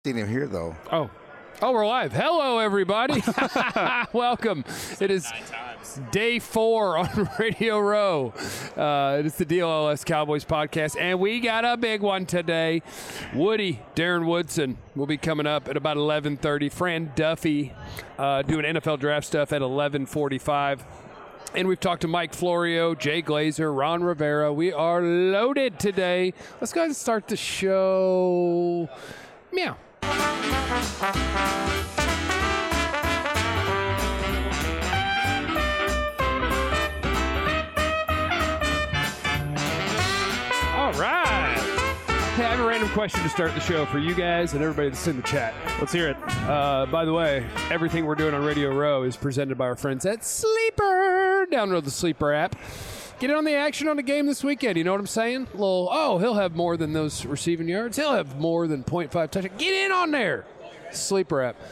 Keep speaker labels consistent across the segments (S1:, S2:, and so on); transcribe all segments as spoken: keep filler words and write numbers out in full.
S1: Seen him here though.
S2: Oh. Oh, we're live. Hello, everybody. Welcome. It is day four on Radio Row. Uh, it is the D L L S Cowboys podcast, and we got a big one today. Woody, Darren Woodson, will be coming up at about eleven thirty. Fran Duffy uh, doing N F L draft stuff at eleven forty-five. And we've talked to Mike Florio, Jay Glazer, Ron Rivera. We are loaded today. Let's go ahead and start the show. Meow. All right. Hey, I have a random question to start the show for you guys and everybody that's in the chat.
S3: Let's hear it.
S2: Uh, by the way, everything we're doing on Radio Row is presented by our friends at Sleeper. Download the Sleeper app. Get in on the action on the game this weekend. You know what I'm saying? A little, oh, he'll have more than those receiving yards. He'll have more than point five touchdowns. Get in on there. Sleeper app.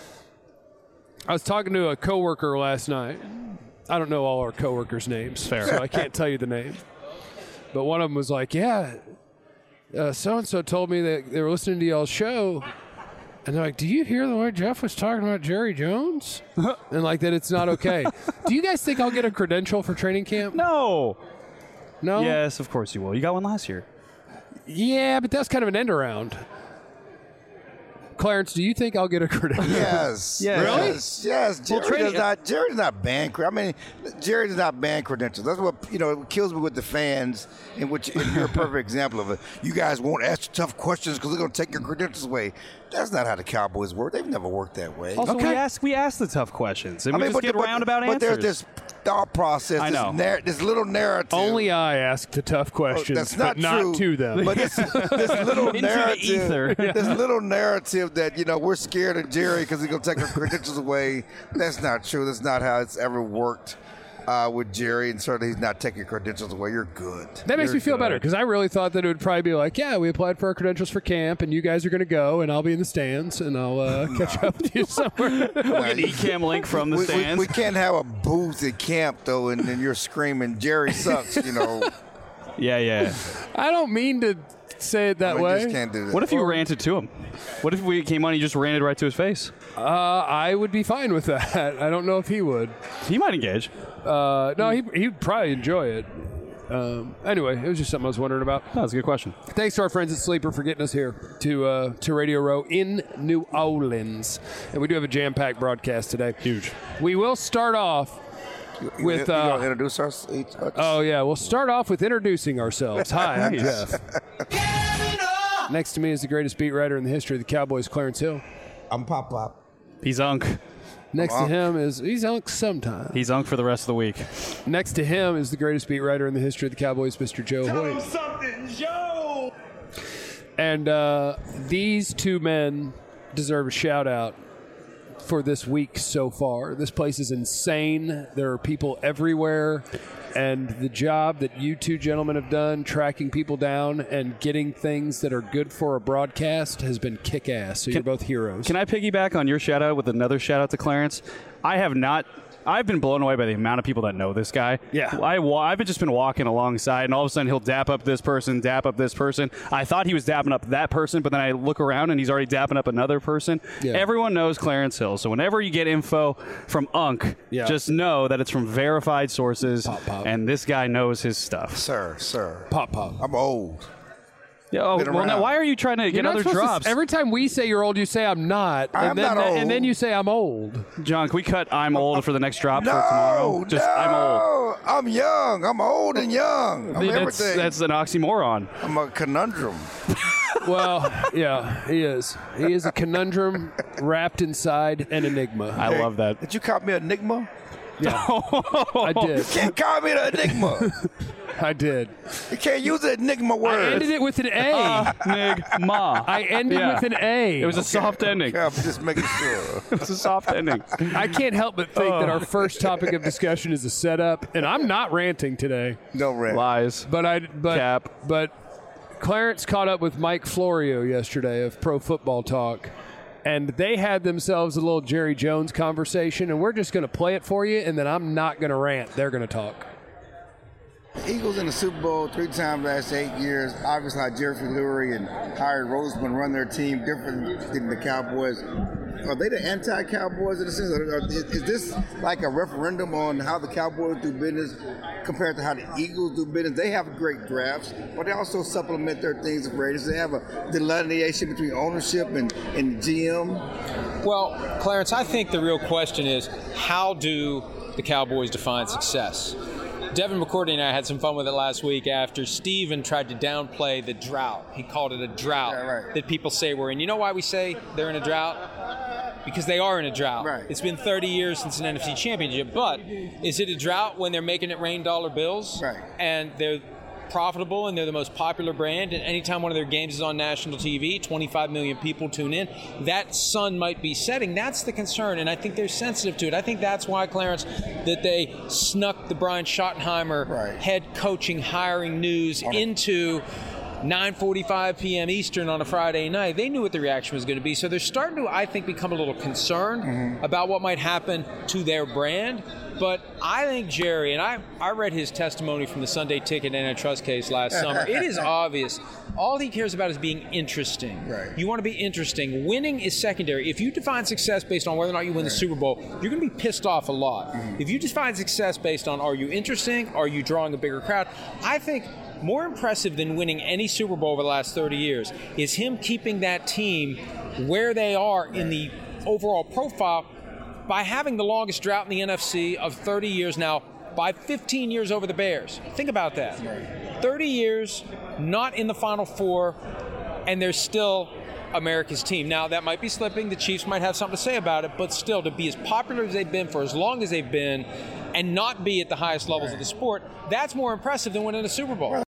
S2: I was talking to a coworker last night. I don't know all our coworkers' names, Fair. so I can't tell you the name. But one of them was like, yeah, uh, so-and-so told me that they were listening to y'all's show. And they're like, do you hear the way Jeff was talking about Jerry Jones? And like that it's not okay. Do you guys think I'll get a credential for training camp?
S3: No.
S2: No?
S3: Yes, of course you will. You got one last year.
S2: Yeah, but that's kind of an end around. Clarence, do you think I'll get a credential?
S1: Yes.
S3: Yeah.
S2: Really?
S1: Yes. Yes. Jerry
S3: Well, training-
S1: does not. Jerry does not ban. cre- I mean, Jerry does not ban credentials. That's what you know. It kills me with the fans, in which and you're a perfect example of it. You guys won't ask tough questions because they're going to take your credentials away. That's not how the Cowboys work. They've never worked that way.
S3: Also,
S2: Okay.
S3: we ask we ask the tough questions, and
S1: I
S3: we
S1: mean,
S3: just get
S1: but,
S3: roundabout
S1: but
S3: answers.
S1: there's this thought process.
S3: I
S1: this
S3: know.
S1: Nar- this little narrative.
S2: Only I ask the tough questions,
S1: That's not
S2: but not
S1: true.
S2: to them.
S1: But this, this little
S3: Into the
S1: narrative,
S3: ether.
S1: this little narrative that you know we're scared of Jerry because he's gonna take our credentials away. That's not true. That's not how it's ever worked uh, with Jerry, and certainly he's not taking credentials away. You're good.
S2: That makes
S3: You're
S2: me feel
S3: good.
S2: better because I really thought that it would probably be like, yeah, we applied for our credentials for camp, and you guys are going to go, and I'll be in the stands, and I'll uh, catch up with you somewhere.
S3: An E-cam link from the
S1: We, we,
S3: stands.
S1: we can't have a booth at camp though, and then you're screaming Jerry sucks. You know,
S3: yeah, yeah.
S2: I don't mean to say it that
S1: we
S2: way.
S1: just can't do that.
S3: What if you ranted to him? What if we came on and you just ranted right to his face?
S2: Uh, I would be fine with that. I don't know if he would.
S3: He might engage.
S2: Uh, no, he, he'd probably enjoy it. Um, anyway, it was just something I was wondering about.
S3: Oh, that's a good question.
S2: Thanks to our friends at Sleeper for getting us here to uh, to Radio Row in New Orleans. And we do have a jam-packed broadcast today.
S3: Huge.
S2: We will start off with...
S1: you gonna
S2: Uh,
S1: introduce us? Each, uh,
S2: oh, yeah. We'll start off with introducing ourselves. Hi, I'm Jeff. Next to me is the greatest beat writer in the history of the Cowboys, Clarence Hill.
S4: I'm Pop Pop.
S3: He's unk.
S2: Next to
S1: Unc.
S2: him is... He's Unc sometimes.
S3: He's unk for the rest of the week.
S2: Next to him is the greatest beat writer in the history of the Cowboys, Mister Joe Hoyt.
S4: something, Joe!
S2: And uh, these two men deserve a shout out for this week so far. This place is insane. There are people everywhere. And the job that you two gentlemen have done tracking people down and getting things that are good for a broadcast has been kick-ass. So you're both heroes.
S3: Can I piggyback on your shout out with another shout out to Clarence? I have not. I've been blown away by the amount of people that know this guy.
S2: Yeah.
S3: I, wa- I've just been walking alongside, and all of a sudden he'll dap up this person, dap up this person. I thought he was dapping up that person, but then I look around and he's already dapping up another person.
S2: Yeah.
S3: Everyone knows Clarence Hill, so whenever you get info from Unk,
S2: Yeah.
S3: just know that it's from verified sources,
S2: Pop, pop.
S3: and this guy knows his stuff.
S1: sir, sir.
S2: Pop, pop.
S1: I'm old.
S3: Yeah, oh,
S1: Been
S3: well, now
S1: around.
S3: why are you trying to
S2: You're
S3: get
S2: not
S3: other
S2: supposed to-
S3: drops?
S2: every time we say you're old, you say I'm not.
S1: I'm
S2: and then,
S1: not old.
S2: And then you say I'm old.
S3: John, can we cut I'm old for the next drop
S1: No,
S3: for tomorrow? Just
S1: no,
S3: I'm old.
S1: I'm young. I'm old and young. I'm
S3: That's,
S1: everything.
S3: that's an oxymoron.
S1: I'm a conundrum.
S2: Well, yeah, he is. He is a conundrum wrapped inside an enigma.
S3: I love that.
S1: Did you call me an enigma?
S2: Yeah, I did.
S1: Can't call me an enigma.
S2: I did.
S1: You can't use the enigma
S2: I
S1: word.
S2: ended it with an A.
S3: Uh, Nig ma.
S2: I ended
S3: Yeah.
S2: with an A.
S3: It was a soft ending.
S1: Yeah, I'm just making sure.
S3: It was a soft ending.
S2: I can't help but think that our first topic of discussion is a setup, and I'm not ranting today.
S1: No rant.
S3: Lies.
S2: But I, but
S3: Cap.
S2: but Clarence caught up with Mike Florio yesterday of Pro Football Talk, and they had themselves a little Jerry Jones conversation, and we're just going to play it for you, and then I'm not going to rant. They're going to talk.
S1: Eagles in the Super Bowl three times last eight years. Obviously, how Jeffrey Lurie and Harry Roseman run their team different than the Cowboys. Are they the anti-Cowboys in a sense? Or is this like a referendum on how the Cowboys do business compared to how the Eagles do business? They have great drafts, but they also supplement their things with Raiders. They have a delineation between ownership and, and G M.
S5: Well, Clarence, I think the real question is, how do the Cowboys define success? Devin McCourty and I had some fun with it last week after Steven tried to downplay the drought. He called it a drought
S1: yeah, right.
S5: that people say we're in. You know why we say they're in a drought? Because they are in a drought.
S1: Right.
S5: It's been thirty years since an N F C championship, but is it a drought when they're making it rain dollar bills?
S1: Right.
S5: And they're profitable and they're the most popular brand, and anytime one of their games is on national T V, twenty-five million people tune in, that sun might be setting. That's the concern, and I think they're sensitive to it. I think that's why, Clarence, that they snuck the Brian Schottenheimer
S1: right.
S5: head coaching hiring news into nine forty-five p.m. Eastern on a Friday night. They knew what the reaction was going to be, so they're starting to, I think, become a little concerned mm-hmm. about what might happen to their brand. But I think Jerry, and I, I read his testimony from the Sunday Ticket antitrust case last summer. It is obvious. All he cares about is being interesting.
S1: Right.
S5: You want to be interesting. Winning is secondary. If you define success based on whether or not you win the Super Bowl, you're going to be pissed off a lot. Mm-hmm. If you define success based on are you interesting, are you drawing a bigger crowd, I think more impressive than winning any Super Bowl over the last thirty years is him keeping that team where they are in the overall profile by having the longest drought in the N F C of thirty years now, by fifteen years over the Bears. Think about that. thirty years, not in the Final Four, and they're still America's team. Now, that might be slipping. The Chiefs might have something to say about it, but still, to be as popular as they've been for as long as they've been and not be at the highest levels of the sport, that's more impressive than winning a Super Bowl.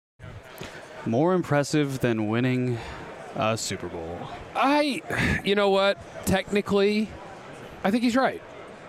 S3: More impressive than winning a Super Bowl.
S2: I, you know what? Technically, I think he's right.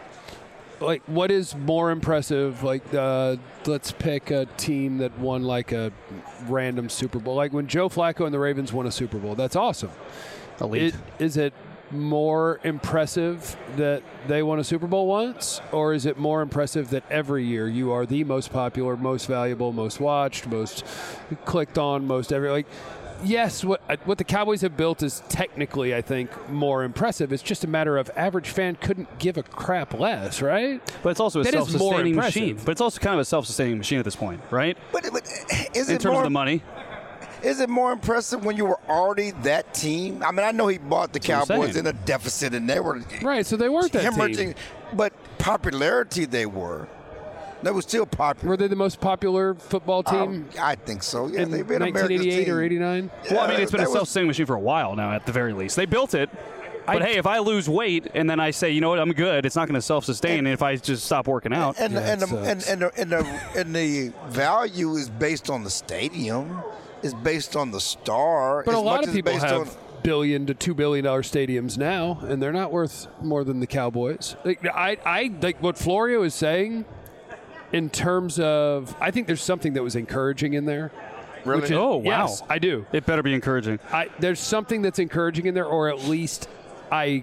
S2: Like, what is more impressive? Like, uh, let's pick a team that won like a random Super Bowl. Like when Joe Flacco and the Ravens won a Super Bowl. That's awesome.
S3: Elite.
S2: It, is it more impressive that they won a Super Bowl once, or is it more impressive that every year you are the most popular, most valuable, most watched, most clicked on, most every like? Yes, what what the Cowboys have built is technically, I think, more impressive. It's just a matter of average fan couldn't give a crap less, right?
S3: But it's also a
S2: that
S3: self-sustaining machine. But it's also kind of a self-sustaining machine at this point, right?
S1: But, but is
S3: in
S1: it
S3: terms
S1: more,
S3: of the money?
S1: Is it more impressive when you were already that team? I mean, I know he bought the
S3: That's
S1: Cowboys in a deficit, and they were
S2: right. So they weren't that
S1: hemorrhaging,
S2: team.
S1: But popularity, they were. They were still popular.
S2: Were they the most popular football team?
S1: Um, I think so. Yeah,
S2: in
S1: they've been
S2: nineteen eighty-eight or eighty-nine.
S1: Yeah,
S3: well, I mean, it's been a
S1: was,
S3: self-sustaining machine for a while now, at the very least. They built it. But
S2: I,
S3: hey, if I lose weight and then I say, you know what, I'm good, it's not going to self-sustain. And, and if I just stop working out,
S1: and
S2: yeah,
S1: and, the, and, and, the, and the and the value is based on the stadium, is based on the star.
S2: But
S1: as
S2: a lot
S1: much
S2: of
S1: as
S2: people
S1: based
S2: have
S1: on,
S2: billion to two billion dollar stadiums now, and they're not worth more than the Cowboys. Like, I, I like what Florio is saying. In terms of, I think there's something that was encouraging in there.
S1: Really?
S2: Which is,
S3: Oh, wow.
S2: Yes, I do.
S3: it better be encouraging.
S2: I, there's something that's encouraging in there, or at least I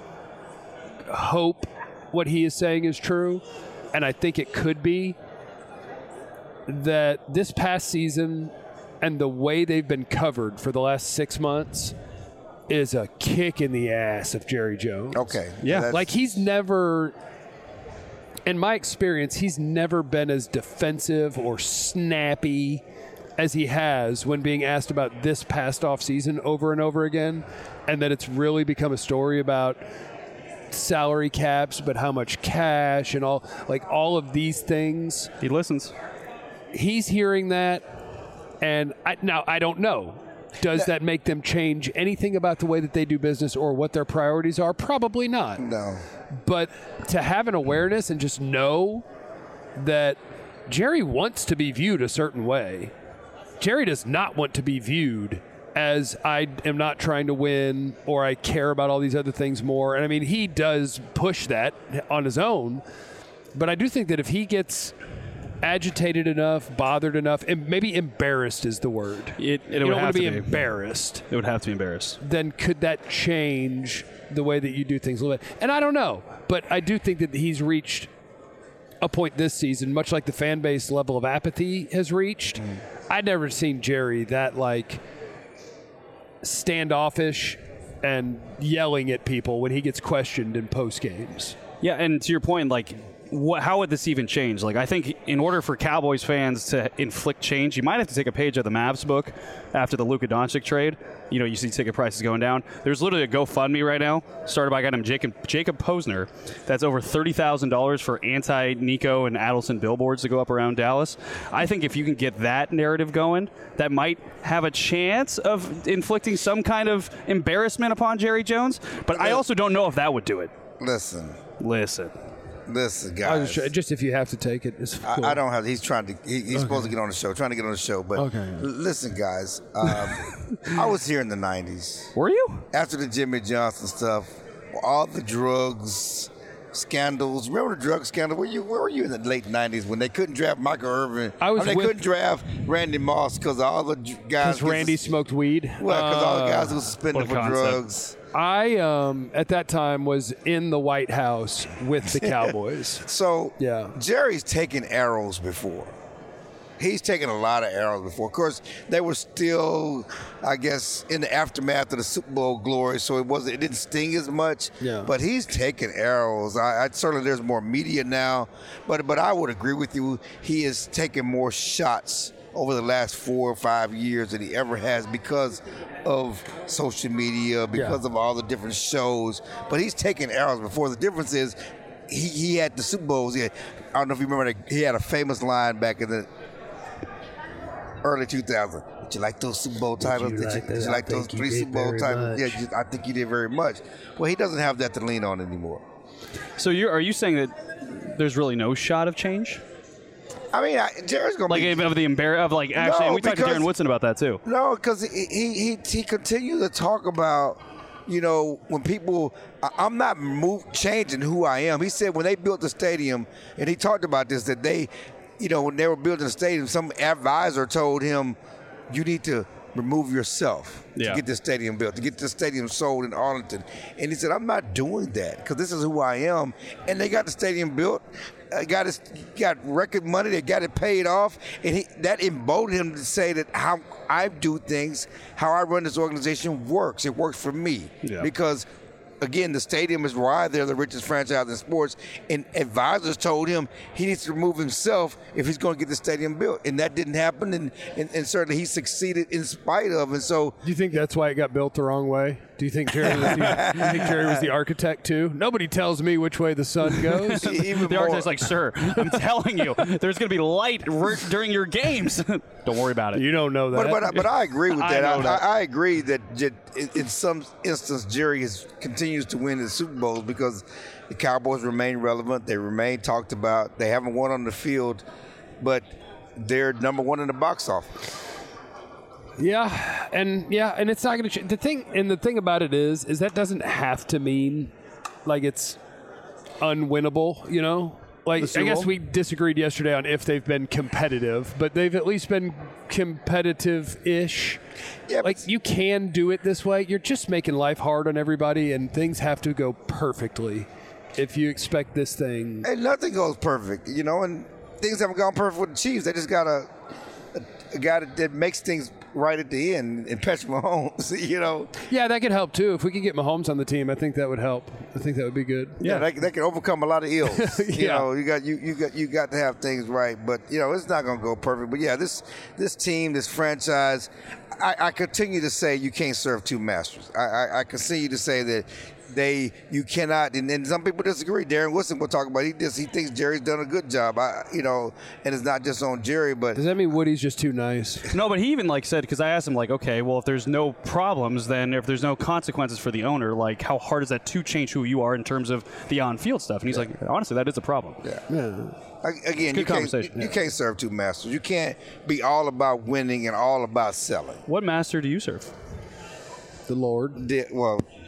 S2: hope what he is saying is true, and I think it could be that this past season and the way they've been covered for the last six months is a kick in the ass of Jerry Jones.
S1: Okay.
S3: Yeah.
S1: That's-
S2: Like, he's never, in my experience, he's never been as defensive or snappy as he has when being asked about this past off season over and over again, and that it's really become a story about salary caps, but how much cash and all, like all of these things.
S3: He listens.
S2: He's hearing that, and I, now I don't know. Does that make them change anything about the way that they do business or what their priorities are? Probably not.
S1: No.
S2: But to have an awareness and just know that Jerry wants to be viewed a certain way. Jerry does not want to be viewed as I am not trying to win or I care about all these other things more. And I mean, he does push that on his own. But I do think that if he gets agitated enough, bothered enough, and maybe embarrassed is the word.
S3: It, it
S2: you
S3: would
S2: don't
S3: have
S2: want to be
S3: to be
S2: embarrassed.
S3: It would have to be embarrassed.
S2: Then could that change the way that you do things a little bit? And I don't know, but I do think that he's reached a point this season, much like the fan base level of apathy has reached. Mm. I'd never seen Jerry that like standoffish and yelling at people when he gets questioned in post games.
S3: Yeah, and to your point, like, what, how would this even change? Like, I think in order for Cowboys fans to inflict change, you might have to take a page of the Mavs book after the Luka Doncic trade. You know, you see ticket prices going down. There's literally a GoFundMe right now, started by a guy named Jacob, Jacob Posner, that's over thirty thousand dollars for anti-Nico and Adelson billboards to go up around Dallas. I think if you can get that narrative going, that might have a chance of inflicting some kind of embarrassment upon Jerry Jones. But I also don't know if that would do it.
S1: Listen.
S3: Listen.
S1: Listen, guys.
S2: Just, just if you have to take it, it's cool.
S1: I, I don't have. He's trying to. He, he's okay. supposed to get on the show. Trying to get on the show, but
S2: okay.
S1: l- listen, guys. Um, I was here in the nineties.
S3: Were you?
S1: After the Jimmy Johnson stuff, all the drugs scandals. Remember the drug scandal? Where you? Where were you in the late nineties when they couldn't draft Michael Irvin?
S2: I was.
S1: I mean, they
S2: with,
S1: couldn't draft Randy Moss because all the guys.
S2: Because Randy sus- smoked weed.
S1: Well, because uh, all the guys who were suspended for
S3: concept.
S1: drugs.
S2: I, um, at that time, was in the White House with the Cowboys.
S1: So,
S2: yeah.
S1: Jerry's taken arrows before. He's taken a lot of arrows before. Of course, they were still, I guess, in the aftermath of the Super Bowl glory, so it wasn't. It didn't sting as much.
S2: Yeah.
S1: But he's taken arrows. I, I certainly there's more media now, but but I would agree with you. He is taking more shots over the last four or five years than he ever has because of social media, because
S2: yeah.
S1: of all the different shows. But he's taken arrows before. The difference is he, he had the Super Bowls. He had, I don't know if you remember, that he had a famous line back in the early two thousands. Did you like those Super Bowl titles? Did you,
S2: like,
S1: did you like those three Super Bowl titles?
S2: Much.
S1: Yeah, you, I think you did very much. Well, he doesn't have that to lean on anymore.
S3: So you're, are you saying that there's really no shot of change?
S1: I mean, I, Jerry's going to
S3: like
S1: be...
S3: Like, of the embar- of like, actually,
S1: no,
S3: and we talked to Darren Woodson about that, too.
S1: No, because he, he, he, he continues to talk about, you know, when people... I, I'm not move, changing who I am. He said when they built the stadium, and he talked about this, that they, you know, when they were building the stadium, some advisor told him, you need to remove yourself
S3: yeah.
S1: to get this stadium built, to get this stadium sold in Arlington. And he said, I'm not doing that because this is who I am. And they got the stadium built. Uh, got his, got record money. They got it paid off, and he, that emboldened him to say that how I do things, how I run this organization works. It works for me
S3: yeah.
S1: because, again, the stadium is why they're the richest franchise in sports. And advisors told him he needs to remove himself if he's going to get the stadium built, and that didn't happen. And, and, and certainly he succeeded in spite of. And so,
S2: do you think that's why it got built the wrong way? Do you think Jerry was the, you think Jerry was the architect too? Nobody tells me which way the sun goes.
S1: Even
S3: the
S1: more.
S3: architect's like, sir, I'm telling you, there's going to be light r- during your games. Don't worry about it.
S2: You don't know that.
S1: But but, but I agree with that.
S3: I,
S1: I,
S3: that.
S1: I, I agree that in, in some instance Jerry is, continues to win the Super Bowls because the Cowboys remain relevant. They remain talked about. They haven't won on the field, but they're number one in the box office.
S2: Yeah, and yeah, and it's not going to change. The thing, and the thing about it is, is that doesn't have to mean like it's unwinnable. You know, like I guess we disagreed yesterday on if they've been competitive, but they've at least been competitive-ish.
S1: Yeah,
S2: like you can do it this way. You're just making life hard on everybody, and things have to go perfectly if you expect this thing.
S1: And nothing goes perfect, you know, and things haven't gone perfect with the Chiefs. They just got a, a, a guy that, that makes things right at the end, and Patrick Mahomes, you know.
S2: Yeah, that could help too. If we could get Mahomes on the team, I think that would help. I think that would be good.
S1: Yeah, yeah. That, that can overcome a lot of ills.
S2: yeah.
S1: You know, you got you you got you got to have things right, but you know it's not going to go perfect. But yeah, this this team, this franchise, I, I continue to say you can't serve two masters. I, I, I continue to say that. They, you cannot, and, and some people disagree. Darren Woodson will talk about. He just he thinks Jerry's done a good job. I, you know, and it's not just on Jerry, but
S2: does that mean Woody's just too nice?
S3: No, but he even like said because I asked him like, okay, well, if there's no problems, then if there's no consequences for the owner, like how hard is that to change who you are in terms of the on-field stuff? And he's yeah. like, honestly, that is a problem.
S1: Yeah.
S2: yeah.
S1: Again, you can't, you,
S3: yeah.
S1: you can't serve two masters. You can't be all about winning and all about selling.
S3: What master do you serve?
S2: The Lord.
S1: The, well.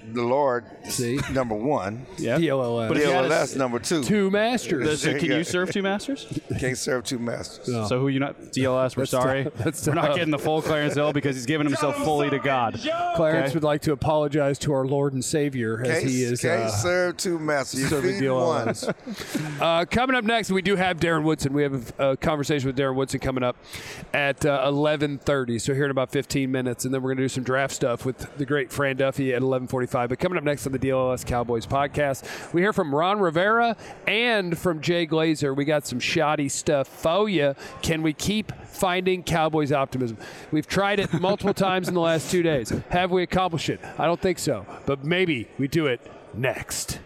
S1: the Lord,
S2: See?
S1: number one.
S3: Yeah.
S2: D L L S.
S3: But if
S1: D
S3: you
S1: L
S3: had
S1: L
S3: a-
S1: S, number two.
S2: Two masters.
S3: So can you serve two masters?
S1: Can't serve two masters.
S2: No.
S3: So who you not? D L S. We're
S2: That's
S3: sorry.
S2: tough. That's
S3: we're not
S2: tough.
S3: getting the full Clarence Hill because he's given himself fully to God.
S2: Clarence
S3: Okay.
S2: would like to apologize to our Lord and Savior as
S1: Can't,
S2: he is
S1: can't
S2: uh,
S1: serve two masters. You
S2: serving
S1: feed
S2: D L L
S1: one.
S2: S. Uh, coming up next, we do have Darren Woodson. We have a, a conversation with Darren Woodson coming up at uh, eleven thirty. So here in about fifteen minutes, and then we're going to do some draft stuff with the great Fran Duffy at eleven forty-five. But coming up next on the D L L S Cowboys podcast, we hear from Ron Rivera and from Jay Glazer. We got some shoddy stuff for you. Can we keep finding Cowboys optimism? We've tried it multiple times in the last two days. Have we accomplished it? I don't think so. But maybe we do it next.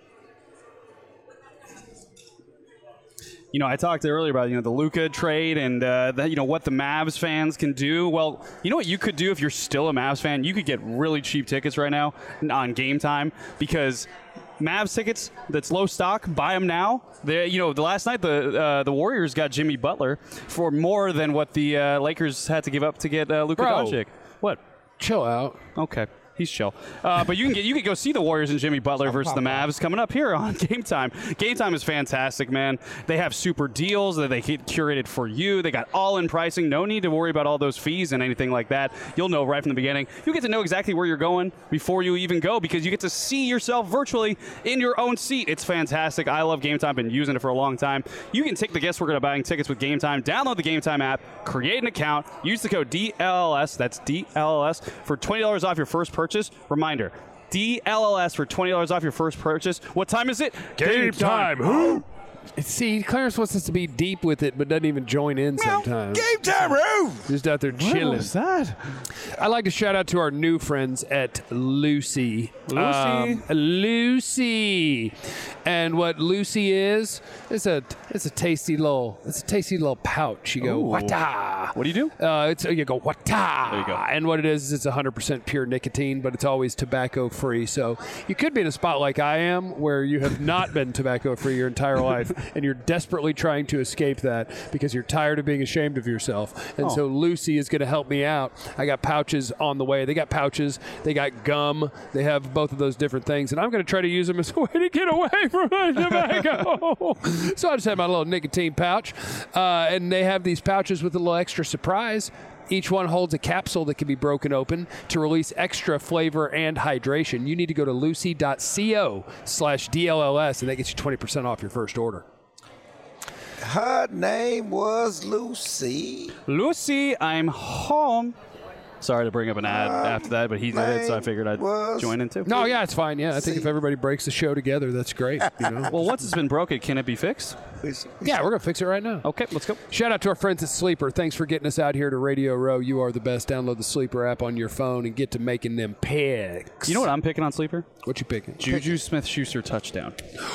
S3: You know, I talked earlier about, you know, the Luka trade and, uh, the, you know, what the Mavs fans can do. Well, you know what you could do if you're still a Mavs fan? You could get really cheap tickets right now on Game Time because Mavs tickets that's low stock, buy them now. They, you know, the last night the uh, the Warriors got Jimmy Butler for more than what the uh, Lakers had to give up to get uh, Luka
S2: Bro.
S3: Doncic. What?
S2: Chill out.
S3: Okay. He's chill. Uh, but you can get you can go see the Warriors and Jimmy Butler versus the Mavs coming up here on Game Time. Game Time is fantastic, man. They have super deals that they get curated for you. They got all-in pricing. No need to worry about all those fees and anything like that. You'll know right from the beginning. You get to know exactly where you're going before you even go because you get to see yourself virtually in your own seat. It's fantastic. I love Game Time. Been using it for a long time. You can take the guesswork out of buying tickets with Game Time. Download the Game Time app. Create an account. Use the code D L L S. That's D L L S for twenty dollars off your first purchase. Reminder, D L L S for twenty dollars off your first purchase. What time is it?
S2: Game time. Who? See, Clarence wants us to be deep with it, but doesn't even join in sometimes.
S1: Game time, Roo!
S2: Just out there chilling.
S3: that?
S2: I'd like to shout out to our new friends at Lucy.
S3: Lucy.
S2: Um, Lucy. And what Lucy is, it's a it's a tasty little it's a tasty little pouch. You go,
S3: Ooh.
S2: wata.
S3: What do you do?
S2: Uh, it's you go wata.
S3: There you go.
S2: And what it is is it's one hundred percent pure nicotine, but it's always tobacco free. So you could be in a spot like I am, where you have not been tobacco free your entire life, and you're desperately trying to escape that because you're tired of being ashamed of yourself. And
S3: Oh.
S2: so Lucy is going to help me out. I got pouches on the way. They got pouches. They got gum. They have both of those different things, and I'm going to try to use them as a way to get away from my tobacco. So I just have my little nicotine pouch, uh, and they have these pouches with a little extra surprise. Each one holds a capsule that can be broken open to release extra flavor and hydration. You need to go to lucy.co slash DLLS, and that gets you twenty percent off your first order.
S1: Her name was Lucy.
S3: Lucy, I'm home. Sorry to bring up an ad after that, but he did it, so I figured I'd
S1: was-
S3: join in too.
S2: No, yeah, it's fine. Yeah, I think
S1: See.
S2: if everybody breaks the show together, that's great. You know?
S3: Well, once it's been broken, can it be fixed?
S2: Yeah, we're going to fix it right now.
S3: Okay, let's go.
S2: Shout out to our friends at Sleeper. Thanks for getting us out here to Radio Row. You are the best. Download the Sleeper app on your phone and get to making them picks.
S3: You know what I'm picking on Sleeper?
S2: What you picking?
S3: Juju Smith-Schuster touchdown.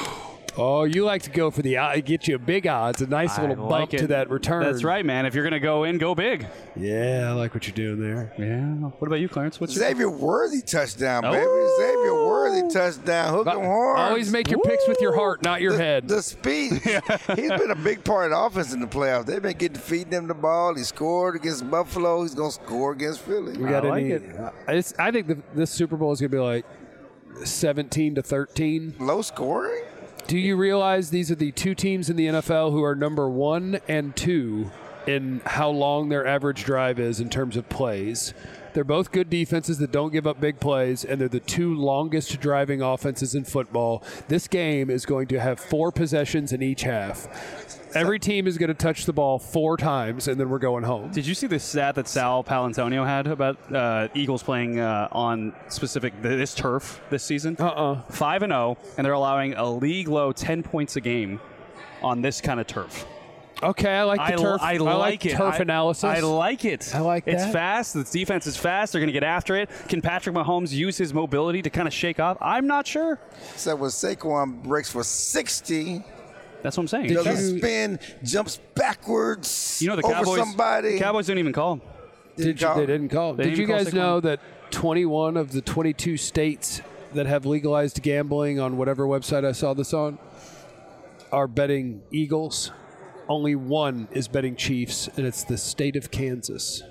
S2: Oh, you like to go for the uh, get you a big odds, a nice
S3: I
S2: little
S3: like
S2: bump
S3: it.
S2: to that return.
S3: That's right, man. If you're going to go in, go big.
S2: Yeah, I like what you're doing there.
S3: Yeah. What about you, Clarence? What's your
S1: Xavier Worthy touchdown, baby.
S3: Oh.
S1: Xavier Worthy touchdown. Hook 'em hard.
S2: Always make your picks with your heart, not your
S1: the,
S2: head.
S1: The speed. He's been a big part of the offense in the playoffs. They've been getting feeding him the ball. He scored against Buffalo. He's going to score against Philly.
S2: we got
S3: I like
S2: any?
S3: it.
S2: uh, It's, I think the, this Super Bowl is going to be like seventeen to thirteen.
S1: Low scoring?
S2: Do you realize these are the two teams in the N F L who are number one and two in how long their average drive is in terms of plays? They're both good defenses that don't give up big plays, and they're the two longest driving offenses in football. This game is going to have four possessions in each half. Every team is going to touch the ball four times, and then we're going home.
S3: Did you see the stat that Sal Palantonio had about uh, Eagles playing uh, on specific this turf this season?
S2: Uh-uh.
S3: Five and zero, and they're allowing a league low ten points a game on this kind of turf.
S2: Okay, I like the
S3: I,
S2: turf.
S3: I,
S2: I
S3: like,
S2: like
S3: it.
S2: turf
S3: I,
S2: analysis.
S3: I like it.
S2: I like
S3: It's
S2: that.
S3: fast. The defense is fast. They're going to get after it. Can Patrick Mahomes use his mobility to kind of shake off? I'm not sure.
S1: So when Saquon breaks for sixty,
S3: That's what I'm saying.
S2: Did
S1: does
S2: you-
S1: a spin, jumps backwards
S3: You know the
S1: over
S3: Cowboys.
S1: somebody.
S3: Cowboys didn't even call him.
S2: Did you,
S1: call-
S2: they didn't call.
S3: They
S2: Did
S3: didn't
S2: you
S3: call
S2: guys
S3: Saquon.
S2: know that twenty-one of the twenty-two states that have legalized gambling on whatever website I saw this on are betting Eagles? Only one is betting Chiefs, and it's the state of Kansas.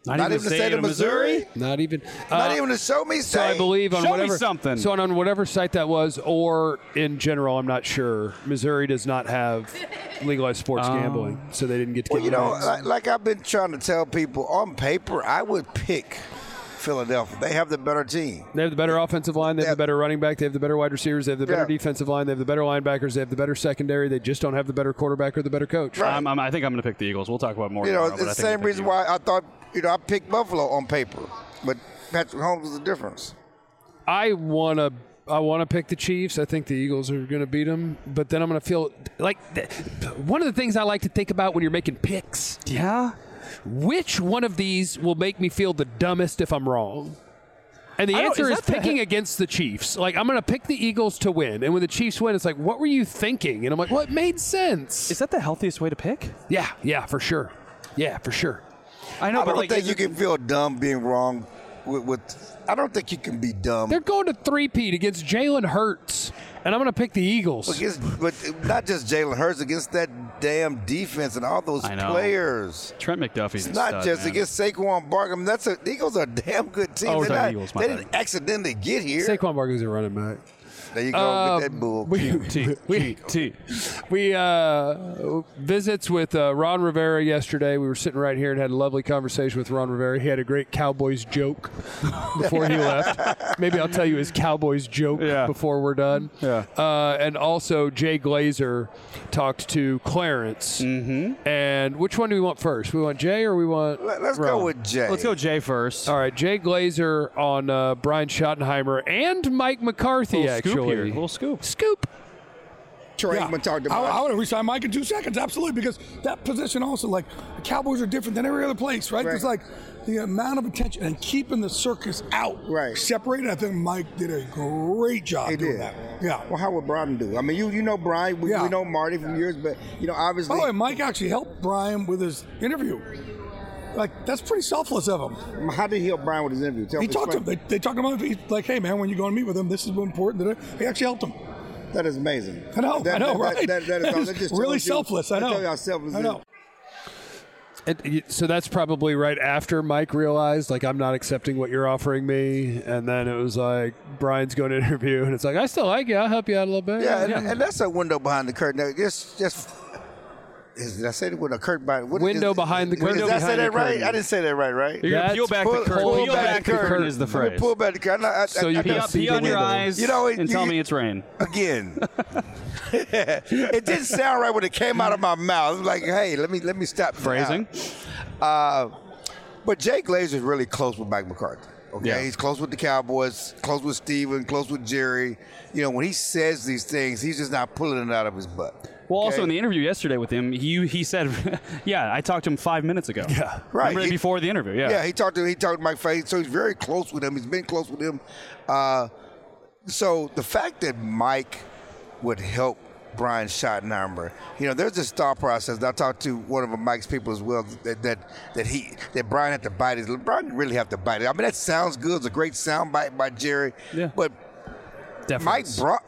S3: Not,
S1: Not
S3: even the state of Missouri?
S2: Not even.
S1: Not
S2: uh,
S1: even to show me
S2: So I
S1: state.
S2: believe on
S3: Show me
S2: whatever
S3: something.
S2: So on whatever site that was, or in general, I'm not sure. Missouri does not have legalized sports gambling, so they didn't get to
S1: Well,
S2: get
S1: you
S2: the
S1: know,
S2: max.
S1: like, like I've been trying to tell people, on paper, I would pick Philadelphia. They have the better team.
S2: They have the better offensive line. They have
S1: Yeah.
S2: the better running back. They have the better wide receivers. They have the better
S1: Yeah.
S2: defensive line. They have the better linebackers. They have the better secondary. They just don't have the better quarterback or the better coach.
S1: Right.
S3: I'm, I'm, I think I'm going to pick the Eagles. We'll talk about more
S1: You know,
S3: tomorrow,
S1: it's
S3: but I
S1: the
S3: think I'm
S1: same
S3: gonna pick
S1: reason
S3: the
S1: why I thought, you know, I picked Buffalo on paper, but Patrick Mahomes was the difference.
S2: I want to. I want to pick the Chiefs. I think the Eagles are going to beat them, but then I'm going to feel like th- one of the things I like to think about when you're making picks.
S3: Eagles. Yeah.
S2: Which one of these will make me feel the dumbest if I'm wrong? And the
S3: I don't-
S2: answer
S3: is
S2: is
S3: that the
S2: picking
S3: he-
S2: against the Chiefs. Like, I'm going to pick the Eagles to win. And when the Chiefs win, it's like, what were you thinking? And I'm like, well, it made sense.
S3: Is that the healthiest way to pick?
S2: yeah, yeah, for sure. Yeah, for sure.
S3: I know,
S1: I
S3: but
S1: don't
S3: like,
S1: think
S3: is
S1: you
S3: it-
S1: can feel dumb being wrong with, with I don't think you can be dumb.
S2: They're going to three-peat against Jalen Hurts. And I'm going to pick the Eagles.
S1: Against, but not just Jalen Hurts, against that damn defense and all those
S3: I know.
S1: players.
S3: Trent McDuffie's
S1: It's
S3: a
S1: not
S3: stud,
S1: just
S3: man.
S1: against Saquon Barkley. I mean, that's a, the Eagles are a damn good team.
S3: Oh,
S1: They're
S3: sorry,
S1: not-
S3: Eagles, my
S1: they
S3: bad.
S1: didn't accidentally get here.
S2: Saquon Barkley's a running back.
S1: There you go.
S2: Uh,
S1: Get that bull.
S2: we,
S3: T,
S2: we,
S3: T, T.
S2: we uh, visits with uh, Ron Rivera yesterday. We were sitting right here and had a lovely conversation with Ron Rivera. He had a great Cowboys joke before he left. Maybe I'll tell you his Cowboys joke
S3: Yeah.
S2: before we're done.
S3: Yeah.
S2: Uh, and also Jay Glazer talked to Clarence. Mm-hmm. And which one do we want first? We want Jay or we want
S1: Let- Let's
S2: Ron?
S1: go with Jay.
S3: Let's go Jay first.
S2: All right, Jay Glazer on uh, Brian Schottenheimer and Mike McCarthy,
S3: Little scoop
S2: actually.
S3: here. Little scoop.
S2: Scoop.
S1: Troy
S6: Yeah.
S1: Aikman talked
S6: I,
S1: about
S6: I would have resign Mike in two seconds, absolutely, because that position also, like, the Cowboys are different than every other place, right?
S1: Right.
S6: It's like the amount of attention and keeping the circus out,
S1: Right.
S6: separated. I think Mike did a great job
S1: He
S6: doing
S1: did.
S6: that. Yeah.
S1: Well, how would Brian do? I mean, you you know Brian. We,
S6: Yeah.
S1: we know Marty from years, but you know, obviously.
S6: By the way, Mike actually helped Brian with his interview. Like, that's pretty selfless of him.
S1: How did he help Brian with his interview? Tell
S6: He
S1: me,
S6: talked to him.
S1: explain.
S6: They, they talked to him. He's like, hey, man, when you go and meet with him, this is important. He actually helped him.
S1: That is amazing.
S6: I know,
S1: That,
S6: I know,
S1: that,
S6: right?
S1: That, that, that, is, that just
S6: really
S1: tells you-
S6: selfless, I
S1: that
S6: know.
S1: tells you how selfless
S6: I
S1: it
S6: know.
S1: is.
S2: And so that's probably right after Mike realized, like, I'm not accepting what you're offering me. And then it was like, Brian's going to interview, and it's like, I still like you. I'll help you out a little bit.
S1: Yeah, and, and that's a window behind the curtain. Now, just, just. Is, did I say the window curtain behind? What,
S2: Window
S1: is,
S2: behind the
S1: Did
S2: curtain.
S1: I
S2: Window
S1: say
S2: behind
S1: that
S2: the
S1: right?
S2: curtain.
S1: I didn't say that right, right?
S3: You're going to
S2: That's
S3: peel back
S1: pull-
S3: the curtain.
S1: pull
S3: Peel
S1: back
S3: back
S1: the
S3: the curtain
S1: curtain.
S3: is the
S1: Let me
S3: phrase.
S1: pull back the curtain. I, I,
S2: So
S1: I,
S2: you
S1: I,
S2: can
S3: Pee,
S2: see
S3: pee
S2: the
S3: on your
S2: window.
S3: eyes
S1: You know, it-
S3: and
S1: you-
S3: tell me it's rain.
S1: again. It didn't sound right when it came out of my mouth. It was like, hey, let me let me stop.
S3: Phrasing.
S1: Uh, but Jay Glazer is really close with Mike McCarthy. Okay,
S3: Yeah.
S1: he's close with the Cowboys, close with Steven, close with Jerry. You know, when he says these things, he's just not pulling it out of his butt.
S3: Well, also
S1: Okay?
S3: in the interview yesterday with him, he he said, "Yeah, I talked to him five minutes ago." Yeah,
S1: Right.
S3: Remember
S1: He-
S3: before the interview? Yeah.
S1: Yeah, he talked to he talked to Mike Face, so he's very close with him. He's been close with him. Uh, so the fact that Mike would help Brian Schottenheimer, you know, there's this thought process. I talked to one of Mike's people as well that that that he that Brian had to bite his. Brian didn't really have to bite it. I mean, that sounds good. It's a great sound bite by Jerry.
S3: Yeah.
S1: But
S3: Deference.
S1: Mike brought.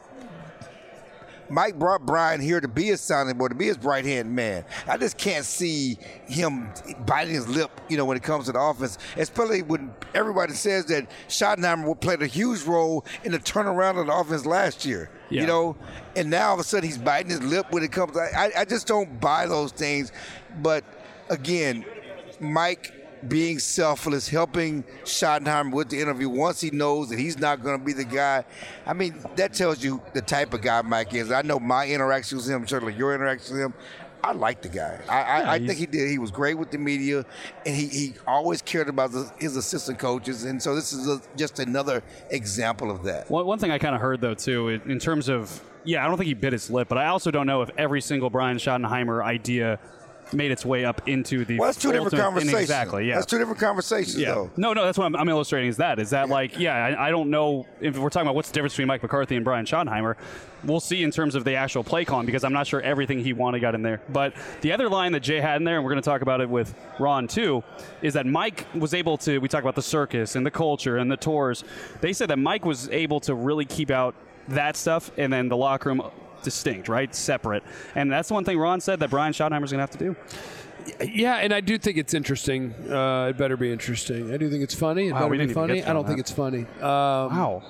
S1: Mike brought Brian here to be his sounding board, to be his right hand man. I just can't see him biting his lip, you know, when it comes to the offense, especially when everybody says that Schottenheimer played a huge role in the turnaround of the offense last year.
S3: Yeah.
S1: You know, and now all of a sudden he's biting his lip when it comes. I, I just don't buy those things. But again, Mike being selfless, helping Schottenheimer with the interview once he knows that he's not going to be the guy. I mean, that tells you the type of guy Mike is. I know my interaction with him, certainly your interaction with him. I like the guy. I, I,
S3: Yeah,
S1: I
S3: he's-
S1: think he did. He was great with the media, and he, he always cared about the, his assistant coaches. And so this is a, just another example of that.
S3: One, one thing I kind of heard though too, in in terms of yeah, I don't think he bit his lip, but I also don't know if every single Brian Schottenheimer idea made its way up into the.
S1: Well, that's two different
S3: ultimate-
S1: conversations.
S3: Exactly. Yeah.
S1: That's two different conversations,
S3: Yeah.
S1: though.
S3: No, no, that's what I'm, I'm illustrating is that. Is that like, yeah, I, I don't know if we're talking about what's the difference between Mike McCarthy and Brian Schottenheimer. We'll see in terms of the actual play calling because I'm not sure everything he wanted got in there. But the other line that Jay had in there, and we're going to talk about it with Ron too, is that Mike was able to, we talk about the circus and the culture and the tours. They said that Mike was able to really keep out that stuff and then the locker room distinct, right? Separate. And that's one thing Ron said that Brian Schottenheimer's going to have to do.
S2: Yeah, and I do think it's interesting. Uh, it better be interesting. I do think it's funny. It
S3: Wow,
S2: better
S3: we
S2: be
S3: didn't even
S2: funny.
S3: get to
S2: I don't
S3: that.
S2: think it's funny. Um,
S3: Wow.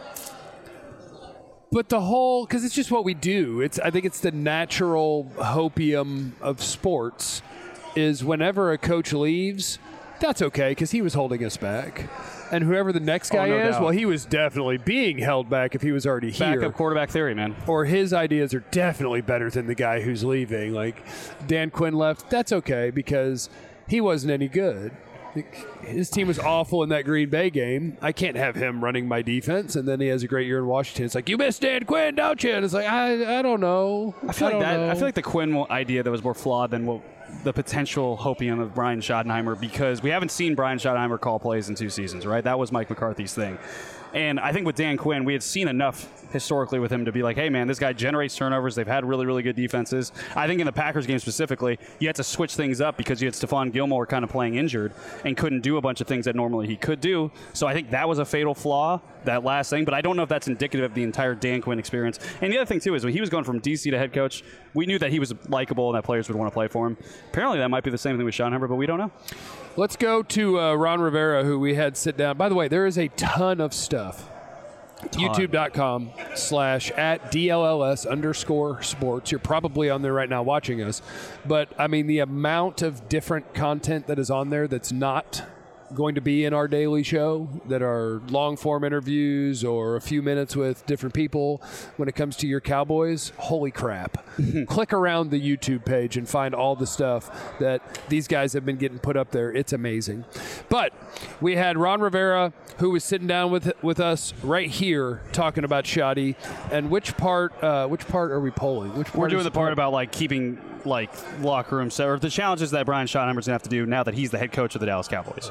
S2: But the whole, because it's just what we do. It's I think it's the natural hopium of sports. Is whenever a coach leaves, that's okay because he was holding us back, and whoever the next guy
S3: no
S2: is,
S3: doubt.
S2: well, he was definitely being held back if he was already here.
S3: Backup quarterback theory, man.
S2: Or his ideas are definitely better than the guy who's leaving. Like Dan Quinn left, that's okay because he wasn't any good. His team was awful in that Green Bay game. I can't have him running my defense, and then he has a great year in Washington. It's like, you miss Dan Quinn, don't you? And it's like, I, I don't know.
S3: I feel like
S2: don't
S3: that.
S2: know.
S3: I feel like the Quinn idea that was more flawed than what the potential hopium of Brian Schottenheimer, because we haven't seen Brian Schottenheimer call plays in two seasons, right? That was Mike McCarthy's thing. And I think with Dan Quinn, we had seen enough historically with him to be like, hey, man, this guy generates turnovers. They've had really, really good defenses. I think in the Packers game specifically, you had to switch things up because you had Stephon Gilmore kind of playing injured and couldn't do a bunch of things that normally he could do. So I think that was a fatal flaw, that last thing. But I don't know if that's indicative of the entire Dan Quinn experience. And the other thing, too, is when he was going from D C to head coach, we knew that he was likable and that players would want to play for him. Apparently that might be the same thing with Schottenheimer, but we don't know.
S2: Let's go to uh, Ron Rivera, who we had sit down. By the way, there is a ton of stuff. YouTube.com slash at DLLS underscore sports. You're probably on there right now watching us. But, I mean, the amount of different content that is on there that's not going to be in our daily show, that are long-form interviews or a few minutes with different people when it comes to your Cowboys, holy crap. Click around the YouTube page and find all the stuff that these guys have been getting put up there. It's amazing. But we had Ron Rivera, who was sitting down with with us right here talking about Shoddy. And which part uh, which part are we polling? Which part
S3: We're doing
S2: is
S3: the part about like keeping like locker room set, or the challenges that Brian Schottenheimer's gonna have to do now that he's the head coach of the Dallas Cowboys.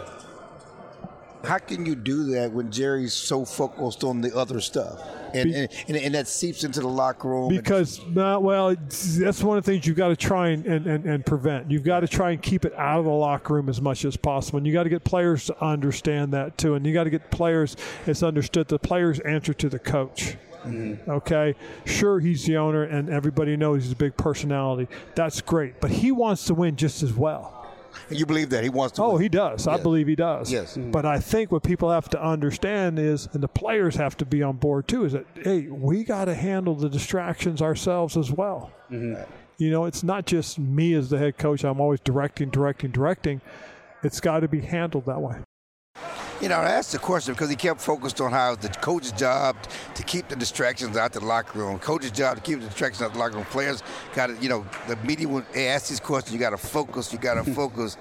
S1: How can you do that when Jerry's so focused on the other stuff, and
S7: Be-
S1: and, and, and that seeps into the locker room?
S7: Because, uh, well, it's- that's one of the things you've got to try and, and, and, and prevent. You've got to try and keep it out of the locker room as much as possible. And you got to get players to understand that, too. And you got to get players, it's understood the players answer to the coach. Mm-hmm. Okay, sure, he's the owner, and everybody knows he's a big personality. That's great. But he wants to win just as well.
S1: You believe that he wants to?
S7: Oh,
S1: win.
S7: he does. I
S1: Yes.
S7: believe he does.
S1: Yes.
S7: But I think what people have to understand is, and the players have to be on board too, is that, hey, we got to handle the distractions ourselves as well.
S3: Mm-hmm.
S7: You know, it's not just me as the head coach. I'm always directing, directing, directing. It's got to be handled that way.
S1: You know, I asked the question because he kept focused on how it's the coach's job to keep the distractions out the locker room. Coach's job to keep the distractions out the locker room. Players got to, you know, the media would ask these questions. You got to focus. You got to focus.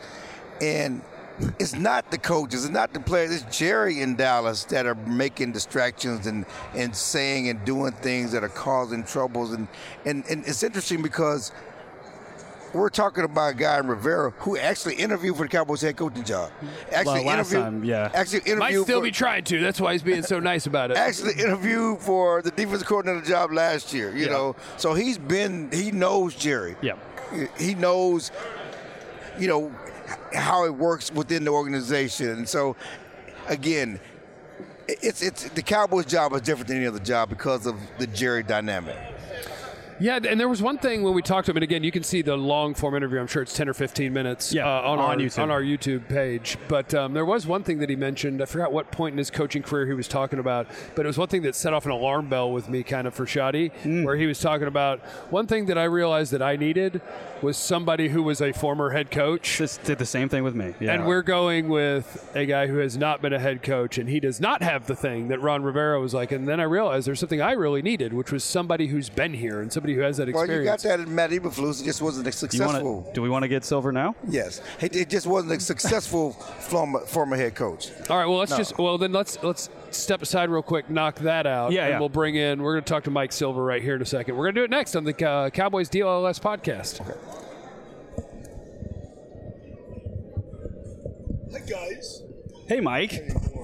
S1: And it's not the coaches. It's not the players. It's Jerry in Dallas that are making distractions and, and saying and doing things that are causing troubles. And, and, and it's interesting because we're talking about a guy in Rivera who actually interviewed for the Cowboys head coaching job. Actually
S3: Well, last
S1: interviewed,
S3: time, yeah.
S1: Actually interviewed
S2: Might still
S1: for,
S2: be trying to. That's why he's being so nice about it.
S1: actually interviewed for the defensive coordinator job last year. You
S3: Yeah.
S1: know, so he's been he knows Jerry.
S3: Yeah.
S1: He knows, you know, how it works within the organization. And so, again, it's it's the Cowboys' job is different than any other job because of the Jerry dynamic.
S2: Yeah, and there was one thing when we talked to him, and again, you can see the long form interview. I'm sure it's ten or fifteen minutes
S3: Yeah,
S2: uh, on,
S3: on
S2: our,
S3: YouTube.
S2: on our YouTube page. But um, there was one thing that he mentioned. I forgot what point in his coaching career he was talking about, but it was one thing that set off an alarm bell with me kind of for Shoddy,
S3: Mm.
S2: where he was talking about one thing that I realized that I needed was somebody who was a former head coach.
S3: This did the same thing with me. Yeah.
S2: And we're going with a guy who has not been a head coach, and he does not have the thing that Ron Rivera was like. And then I realized there's something I really needed, which was somebody who's been here and somebody who has that
S1: Well,
S2: experience.
S1: you got that in Matt Eberflus. It just wasn't a
S3: Do you wanna-
S1: successful.
S3: do we want to get Silver now?
S1: Yes, it, it just wasn't a successful former, former head coach.
S2: All right, well let's
S1: No.
S2: just well then let's let's step aside real quick, knock that out,
S3: Yeah,
S2: and
S3: yeah.
S2: we'll bring in. We're going to talk to Mike Silver right here in a second. We're going to do it next on the uh, Cowboys D L L S podcast.
S1: Okay.
S4: Hi, guys.
S3: Hey, Mike.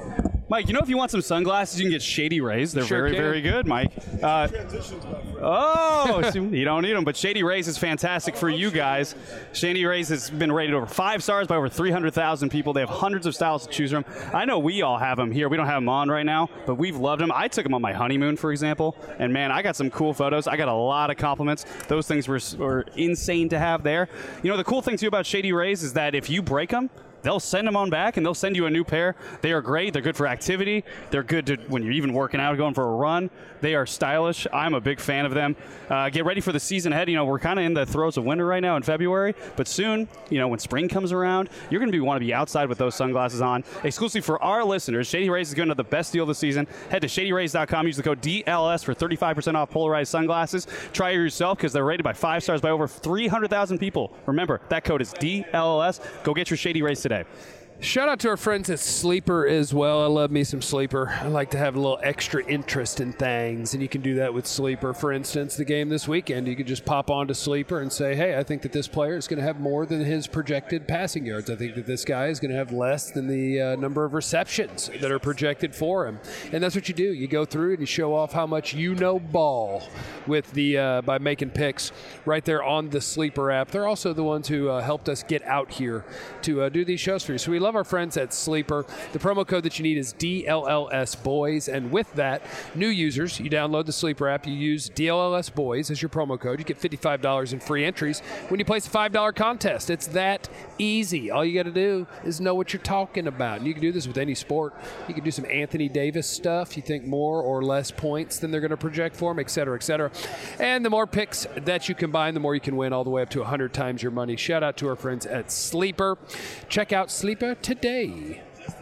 S3: Mike, you know if you want some sunglasses, you can get Shady Rays. They're
S2: Sure
S3: very,
S2: can.
S3: very good, Mike. Uh, oh, so you don't need them, but Shady Rays is fantastic for you guys. Shady Rays has been rated over five stars by over three hundred thousand people. They have hundreds of styles to choose from. I know we all have them here. We don't have them on right now, but we've loved them. I took them on my honeymoon, for example, and man, I got some cool photos. I got a lot of compliments. Those things were, were insane to have there. You know, the cool thing, too, about Shady Rays is that if you break them, they'll send them on back, and they'll send you a new pair. They are great. They're good for activity. They're good to when you're even working out, going for a run. They are stylish. I'm a big fan of them. Uh, get ready for the season ahead. You know, we're kind of in the throes of winter right now in February, but soon, you know, when spring comes around, you're going to be want to be outside with those sunglasses on. Exclusively for our listeners, Shady Rays is going to have the best deal of the season. Head to shady rays dot com. Use the code D L S for thirty-five percent off polarized sunglasses. Try it yourself because they're rated by five stars by over three hundred thousand people. Remember, that code is D L S. Go get your Shady Rays today.
S2: Shout out to our friends at Sleeper as well. I love me some Sleeper. I like to have a little extra interest in things, and you can do that with Sleeper. For instance, the game this weekend, you could just pop onto Sleeper and say, hey, I think that this player is going to have more than his projected passing yards. I think that this guy is going to have less than the uh, number of receptions that are projected for him. And that's what you do. You go through and you show off how much you know ball with the uh, by making picks right there on the Sleeper app. They're also the ones who uh, helped us get out here to uh, do these shows for you. So we love our friends at Sleeper. The promo code that you need is D L L S Boys, and with that, new users, you download the Sleeper app, you use D L L S Boys as your promo code, you get fifty-five dollars in free entries when you place a five dollar contest. It's that easy. All you got to do is know what you're talking about, and you can do this with any sport. You can do some Anthony Davis stuff. You think more or less points than they're going to project for him, et cetera, et cetera. And the more picks that you combine, the more you can win, all the way up to one hundred times your money. Shout out to our friends at Sleeper. Check out Sleeper today.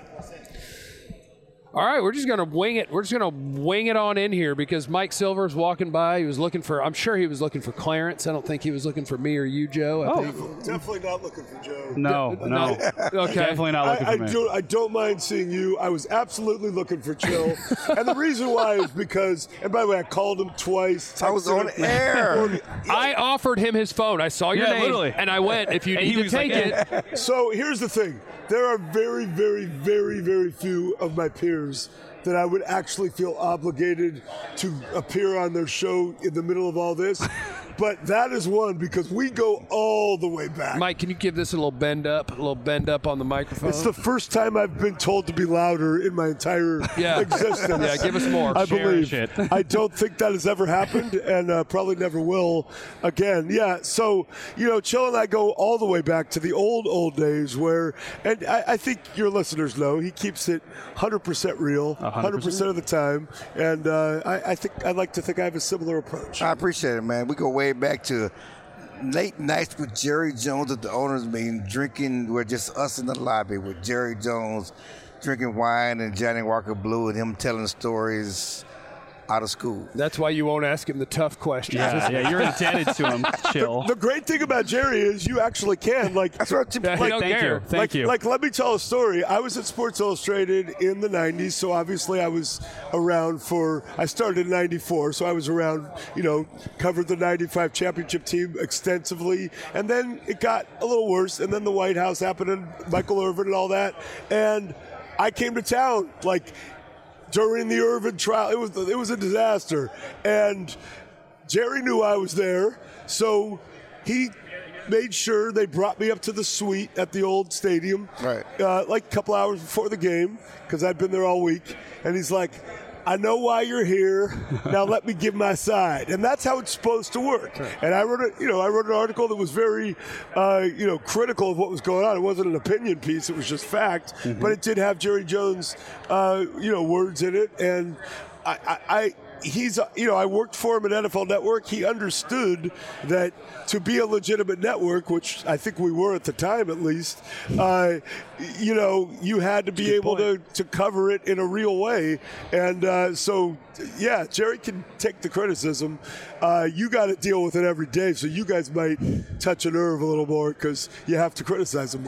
S2: All right, we're just going to wing it. We're just going to wing it on in here because Mike Silver's walking by. He was looking for, I'm sure he was looking for Clarence. I don't think he was looking for me or you, Joe. I
S3: Oh.
S2: think.
S8: Definitely not looking for Joe.
S3: No, no.
S2: Okay.
S3: Definitely not looking
S8: I, I,
S3: for me.
S8: do, I don't mind seeing you. I was absolutely looking for Chill. And the reason why is because, and by the way, I called him twice.
S1: I was
S8: texted
S1: on
S8: him.
S1: air.
S2: I offered him his phone. I saw your
S3: Yeah,
S2: name,
S3: literally.
S2: and I went, if you
S3: And
S2: need
S3: he
S2: to
S3: was
S2: take
S3: like,
S2: it.
S8: So here's the thing. There are very, very, very, very few of my peers that I would actually feel obligated to appear on their show in the middle of all this. But that is one because we go all the way back.
S2: Mike, can you give this a little bend up, a little bend up on the microphone?
S8: It's the first time I've been told to be louder in my entire
S2: Yeah.
S8: existence.
S2: Yeah, give us more.
S8: I
S3: Cherish
S8: believe.
S3: it.
S8: I don't think that has ever happened, and uh, probably never will again. Yeah. So you know, Chill and I go all the way back to the old old days where, and I, I think your listeners know he keeps it one hundred percent real, one hundred percent of the time, and uh, I, I think I'd like to think I have a similar approach.
S1: I appreciate it, man. We go way back to late nights with Jerry Jones at the owners' meeting, drinking. We're just us in the lobby with Jerry Jones, drinking wine and Johnny Walker Blue, and him telling stories out of school.
S2: That's why you won't ask him the tough questions.
S3: Yeah, yeah, you're indebted to him. Chill.
S8: The great thing about Jerry is you actually can like.
S1: That's what
S2: Yeah, he
S8: Like,
S2: don't
S3: Thank
S2: care.
S3: you. Thank
S8: like,
S3: you.
S8: Like, let me tell a story. I was at Sports Illustrated in the nineties, so obviously I was around for. I started in ninety-four, so I was around. You know, covered the ninety-five championship team extensively, and then it got a little worse. And then the White House happened, and Michael Irvin and all that. And I came to town like during the Irvin trial. It was it was a disaster, and Jerry knew I was there, so he made sure they brought me up to the suite at the old stadium,
S1: Right.
S8: uh, like a couple hours before the game, because I'd been there all week. And he's like, I know why you're here. Now let me give my side, and that's how it's supposed to work. And I wrote a, you know, I wrote an article that was very, uh, you know, critical of what was going on. It wasn't an opinion piece; it was just fact.
S3: Mm-hmm.
S8: But it did have Jerry Jones, uh, you know, words in it, and I. I, I He's, you know, I worked for him at N F L Network. He understood that to be a legitimate network, which I think we were at the time at least, uh, you know, you had to be able to, to cover it in a real way. And uh, so, yeah, Jerry can take the criticism. Uh, you got to deal with it every day, so you guys might touch a nerve a little more because you have to criticize him more.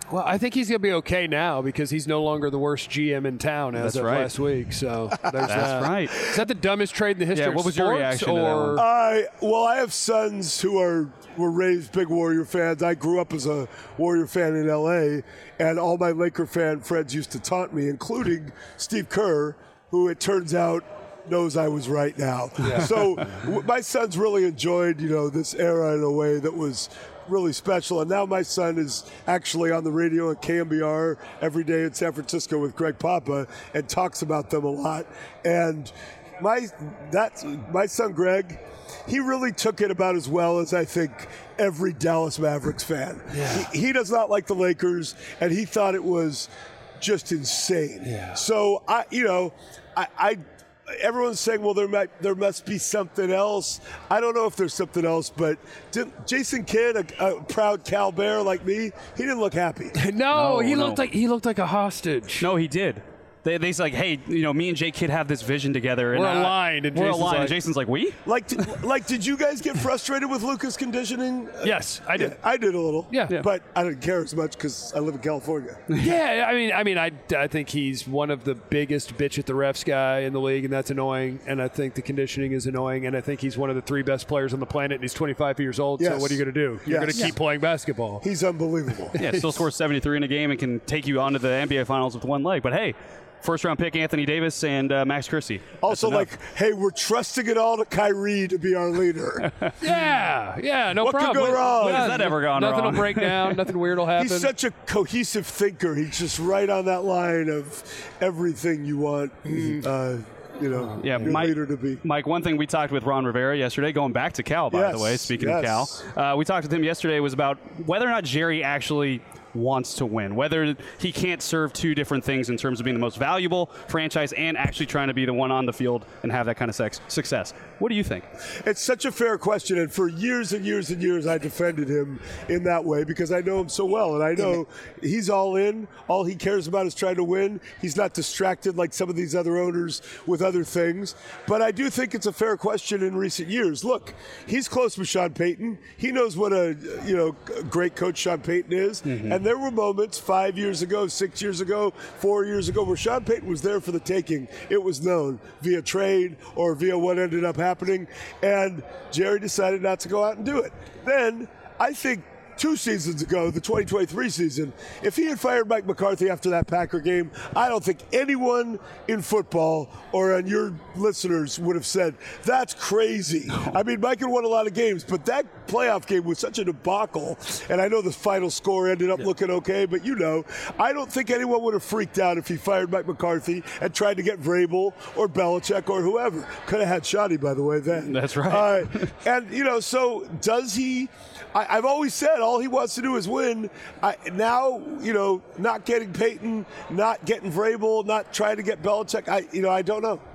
S2: Well, I think he's going to be okay now because he's no longer the worst G M in town as
S3: That's
S2: of
S3: right.
S2: last week. So there's
S3: That's
S2: that.
S3: right.
S2: Is that the dumbest trade in the history
S3: Yeah, what
S2: of
S3: was your
S2: sports?
S3: reaction to that
S2: or
S3: one?
S8: I well, I have sons who are were raised big Warrior fans. I grew up as a Warrior fan in L A, and all my Laker fan friends used to taunt me, including Steve Kerr, who it turns out knows I was right now. So w- my sons really enjoyed, you know, this era in a way that was really special. And now my son is actually on the radio at K M B R every day in San Francisco with Greg Papa and talks about them a lot. And my that my son Greg, he really took it about as well as I think every Dallas Mavericks fan.
S2: Yeah.
S8: He, he does not like the Lakers, and he thought it was just insane.
S2: Yeah.
S8: So I, you know, I. I Everyone's saying, well, there might, there must be something else. I don't know if there's something else, but did Jason Kidd, a, a proud Cal Bear like me, he didn't look happy.
S2: no,
S3: No,
S2: he
S3: no.
S2: looked like he looked like a hostage.
S3: No, he did. They, they's like, hey, you know, me and Jay Kidd have this vision together. And
S2: We're
S3: I-
S2: aligned, and
S3: we're
S2: Jason's
S3: aligned.
S2: like-
S3: and Jason's like, we?
S8: Like, did, like, did you guys get frustrated with Luka's conditioning?
S2: Yes, I did.
S8: Yeah, I did a little.
S2: Yeah. Yeah.
S8: But I didn't care as much because I live in California.
S2: Yeah, I mean, I mean, I, I think he's one of the biggest bitch at the refs guy in the league, and that's annoying. And I think the conditioning is annoying. And I think he's one of the three best players on the planet. And he's twenty-five years old. So
S8: Yes.
S2: what are you going to do? You're
S8: Yes.
S2: going to keep playing basketball.
S8: He's unbelievable.
S3: Yeah, still scores seventy-three in a game and can take you onto the N B A Finals with one leg. But hey, first round pick Anthony Davis and uh, Max Christie.
S8: Also,
S3: That's
S8: like, hey, we're trusting it all to Kyrie to be our leader.
S2: Yeah, yeah, no
S8: What could
S2: problem.
S8: go wrong?
S3: When has that ever gone
S2: Nothing
S3: wrong?
S2: will break down. Nothing weird will happen.
S8: He's such a cohesive thinker. He's just right on that line of everything you want, uh, you know,
S3: Yeah,
S8: your
S3: Mike,
S8: leader to be.
S3: Mike, one thing we talked with Ron Rivera yesterday, going back to Cal, by
S8: Yes,
S3: the way, speaking
S8: yes.
S3: of Cal, uh, we talked with him yesterday, was about whether or not Jerry actually wants to win, whether he can't serve two different things in terms of being the most valuable franchise and actually trying to be the one on the field and have that kind of sex, success. What do you think?
S8: It's such a fair question, and for years and years and years, I defended him in that way because I know him so well, and I know he's all in. All he cares about is trying to win. He's not distracted like some of these other owners with other things. But I do think it's a fair question in recent years. Look, he's close with Sean Payton. He knows what a you know great coach Sean Payton is,
S3: Mm-hmm.
S8: and there were moments five years ago, six years ago, four years ago where Sean Payton was there for the taking. It was known via trade or via what ended up happening, and Jerry decided not to go out and do it. Then I think two seasons ago, the twenty twenty-three season, if he had fired Mike McCarthy after that Packer game, I don't think anyone in football or on your listeners would have said, that's crazy. I mean, Mike had won a lot of games, but that playoff game was such a debacle, and I know the final score ended up yeah. looking okay, but you know, I don't think anyone would have freaked out if he fired Mike McCarthy and tried to get Vrabel or Belichick or whoever. Could have had Shoddy, by the way, then.
S3: That's right.
S8: Uh, and, you know, so does he... I, I've always said all he wants to do is win. I, now, you know, not getting Peyton, not getting Vrabel, not trying to get Belichick. I, you know, I don't know.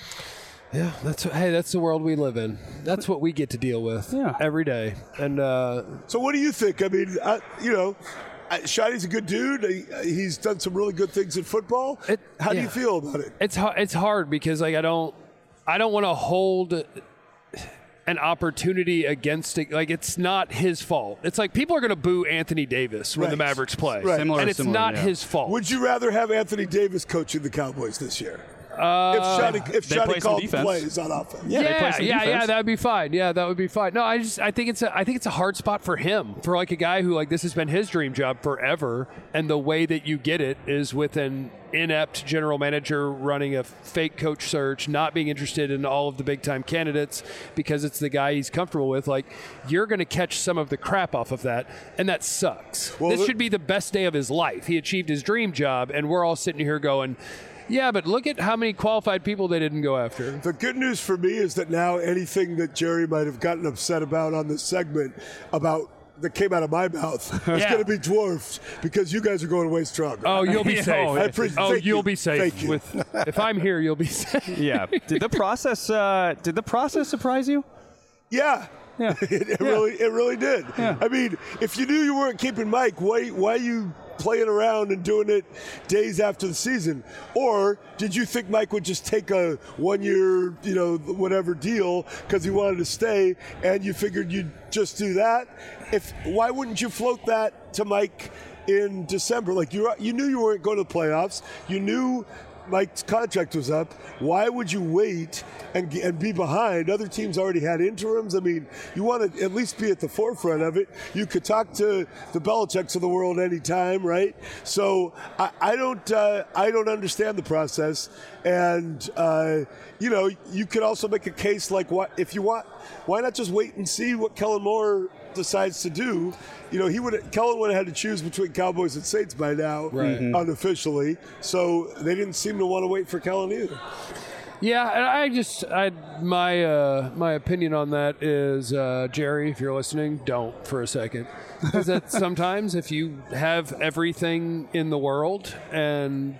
S2: Yeah, that's hey, that's the world we live in. That's what we get to deal with
S3: yeah.
S2: every day. And uh,
S8: so, what do you think? I mean, I, you know, Shotty's a good dude. He, he's done some really good things in football.
S2: It,
S8: How
S2: yeah.
S8: do you feel about it?
S2: It's it's hard because like I don't I don't want to hold an opportunity against it. Like, it's not his fault. It's like people are going to boo Anthony Davis when
S8: right.
S2: the Mavericks play.
S8: Right.
S3: Similar,
S2: and it's
S3: similar,
S2: not
S3: yeah.
S2: his fault.
S8: Would you rather have Anthony Davis coaching the Cowboys this year?
S2: Uh,
S8: if Shotty, if
S3: they play
S8: Shotty
S3: some
S8: called
S3: defense.
S8: plays on offense.
S3: Yeah, they play
S2: yeah,
S3: some
S2: yeah,
S3: defense.
S2: yeah, that would be fine. Yeah, that would be fine. No, I just I think it's a I think it's a hard spot for him, for like a guy who like this has been his dream job forever, and the way that you get it is with an inept general manager running a fake coach search, not being interested in all of the big time candidates because it's the guy he's comfortable with. Like, you're going to catch some of the crap off of that, and that sucks.
S8: Well,
S2: this
S8: the-
S2: should be the best day of his life. He achieved his dream job, and we're all sitting here going, yeah, but look at how many qualified people they didn't go after.
S8: The good news for me is that now anything that Jerry might have gotten upset about on this segment about that came out of my mouth is
S2: Yeah.
S8: going to be dwarfed because you guys are going away stronger.
S2: Oh, you'll be
S3: Yeah.
S2: safe.
S3: Oh,
S8: I appreciate-
S2: Oh,
S8: thank
S2: you'll
S8: you.
S2: be safe.
S8: Thank you.
S2: With if I'm here, you'll be safe.
S3: Yeah. Did the process? Uh, did the process surprise you?
S8: Yeah.
S3: Yeah.
S8: it, it
S3: Yeah.
S8: really, it really did.
S3: Yeah.
S8: I mean, if you knew you weren't keeping Mike, why, why you playing around and doing it days after the season? Or did you think Mike would just take a one-year, you know, whatever deal because he wanted to stay, and you figured you'd just do that? If why wouldn't you float that to Mike in December? Like you, you knew you weren't going to the playoffs. You knew Mike's contract was up. Why would you wait and, and be behind? Other teams already had interims. I mean, you want to at least be at the forefront of it. You could talk to the Belichicks of the world anytime, right? So I, I don't, uh, I don't understand the process. And uh, you know, you could also make a case like, what if you want? Why not just wait and see what Kellen Moore decides to do? You know, he would Kellen would have had to choose between Cowboys and Saints by now,
S2: right.
S8: unofficially. So they didn't seem to want to wait for Kellen either.
S2: Yeah, and I just, I my uh, my opinion on that is, uh, Jerry, if you're listening, don't for a second, because that sometimes if you have everything in the world and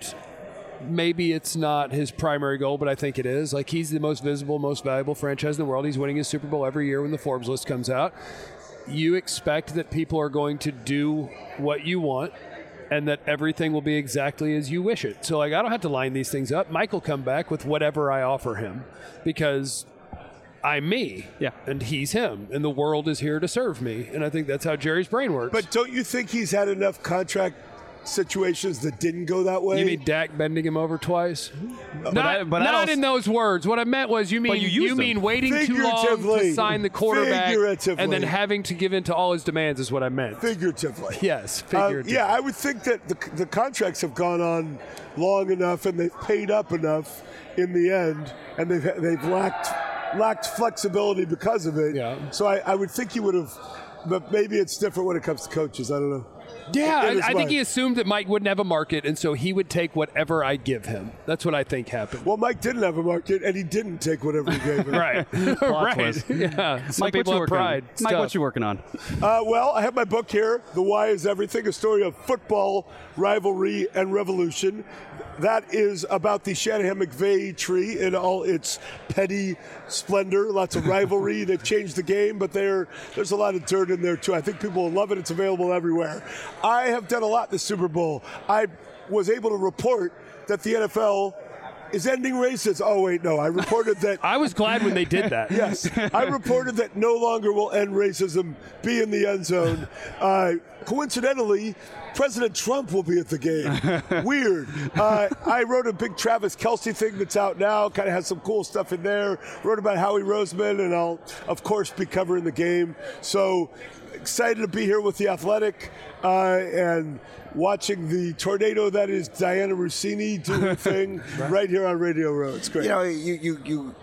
S2: maybe it's not his primary goal, but I think it is. Like, he's the most visible, most valuable franchise in the world. He's winning his Super Bowl every year when the Forbes list comes out. You expect that people are going to do what you want and that everything will be exactly as you wish it. So, like, I don't have to line these things up. Mike will come back with whatever I offer him because I'm me.
S3: Yeah.
S2: And he's him. And the world is here to serve me. And I think that's how Jerry's brain works.
S8: But don't you think he's had enough contract situations that didn't go that way?
S2: You mean Dak bending him over twice?
S3: But
S2: not
S3: I- but I
S2: not
S3: also-
S2: in those words. What I meant was you mean
S3: you
S2: you,
S3: used
S2: mean
S3: them.
S2: waiting too long to
S8: Figuratively.
S2: sign the quarterback
S8: Figuratively.
S2: and then having to give in to all his demands is what I meant.
S8: Figuratively.
S2: Yes,
S8: Uh,
S2: figuratively.
S8: yeah, I would think that the, the contracts have gone on long enough and they've paid up enough in the end, and they've they've lacked lacked flexibility because of it.
S2: Yeah.
S8: So I, I would think he would have, but maybe it's different when it comes to coaches. I don't know.
S2: Yeah,
S8: in his
S2: I, I think
S8: mind.
S2: he assumed that Mike wouldn't have a market, and so he would take whatever I give him. That's what I think happened.
S8: Well, Mike didn't have a market, and he didn't take whatever he gave him.
S2: Right,
S3: Plot
S2: right.
S3: twist.
S2: Yeah, some
S3: Mike, what
S2: people
S3: you
S2: have
S3: working
S2: pride.
S3: on?
S2: It's
S3: Mike,
S2: tough.
S3: what you working on?
S8: Uh, well, I have my book here, The Why is Everything, a story of football, rivalry, and revolution. That is about the Shanahan-McVay tree in all its petty splendor. Lots of rivalry. They've changed the game, but there, there's a lot of dirt in there, too. I think people will love it. It's available everywhere. I have done a lot this Super Bowl. I was able to report that the N F L is ending racism. Oh, wait, no. I reported that...
S2: I was glad when they did that.
S8: Yes. I reported that no longer will end racism be in the end zone. Uh, coincidentally, President Trump will be at the game. Weird. Uh, I wrote a big Travis Kelce thing that's out now. Kind of has some cool stuff in there. Wrote about Howie Roseman, and I'll, of course, be covering the game. So excited to be here with The Athletic uh, and watching the tornado that is Diana Rossini do her thing right. right here on Radio Row. It's great.
S1: You know, you you, you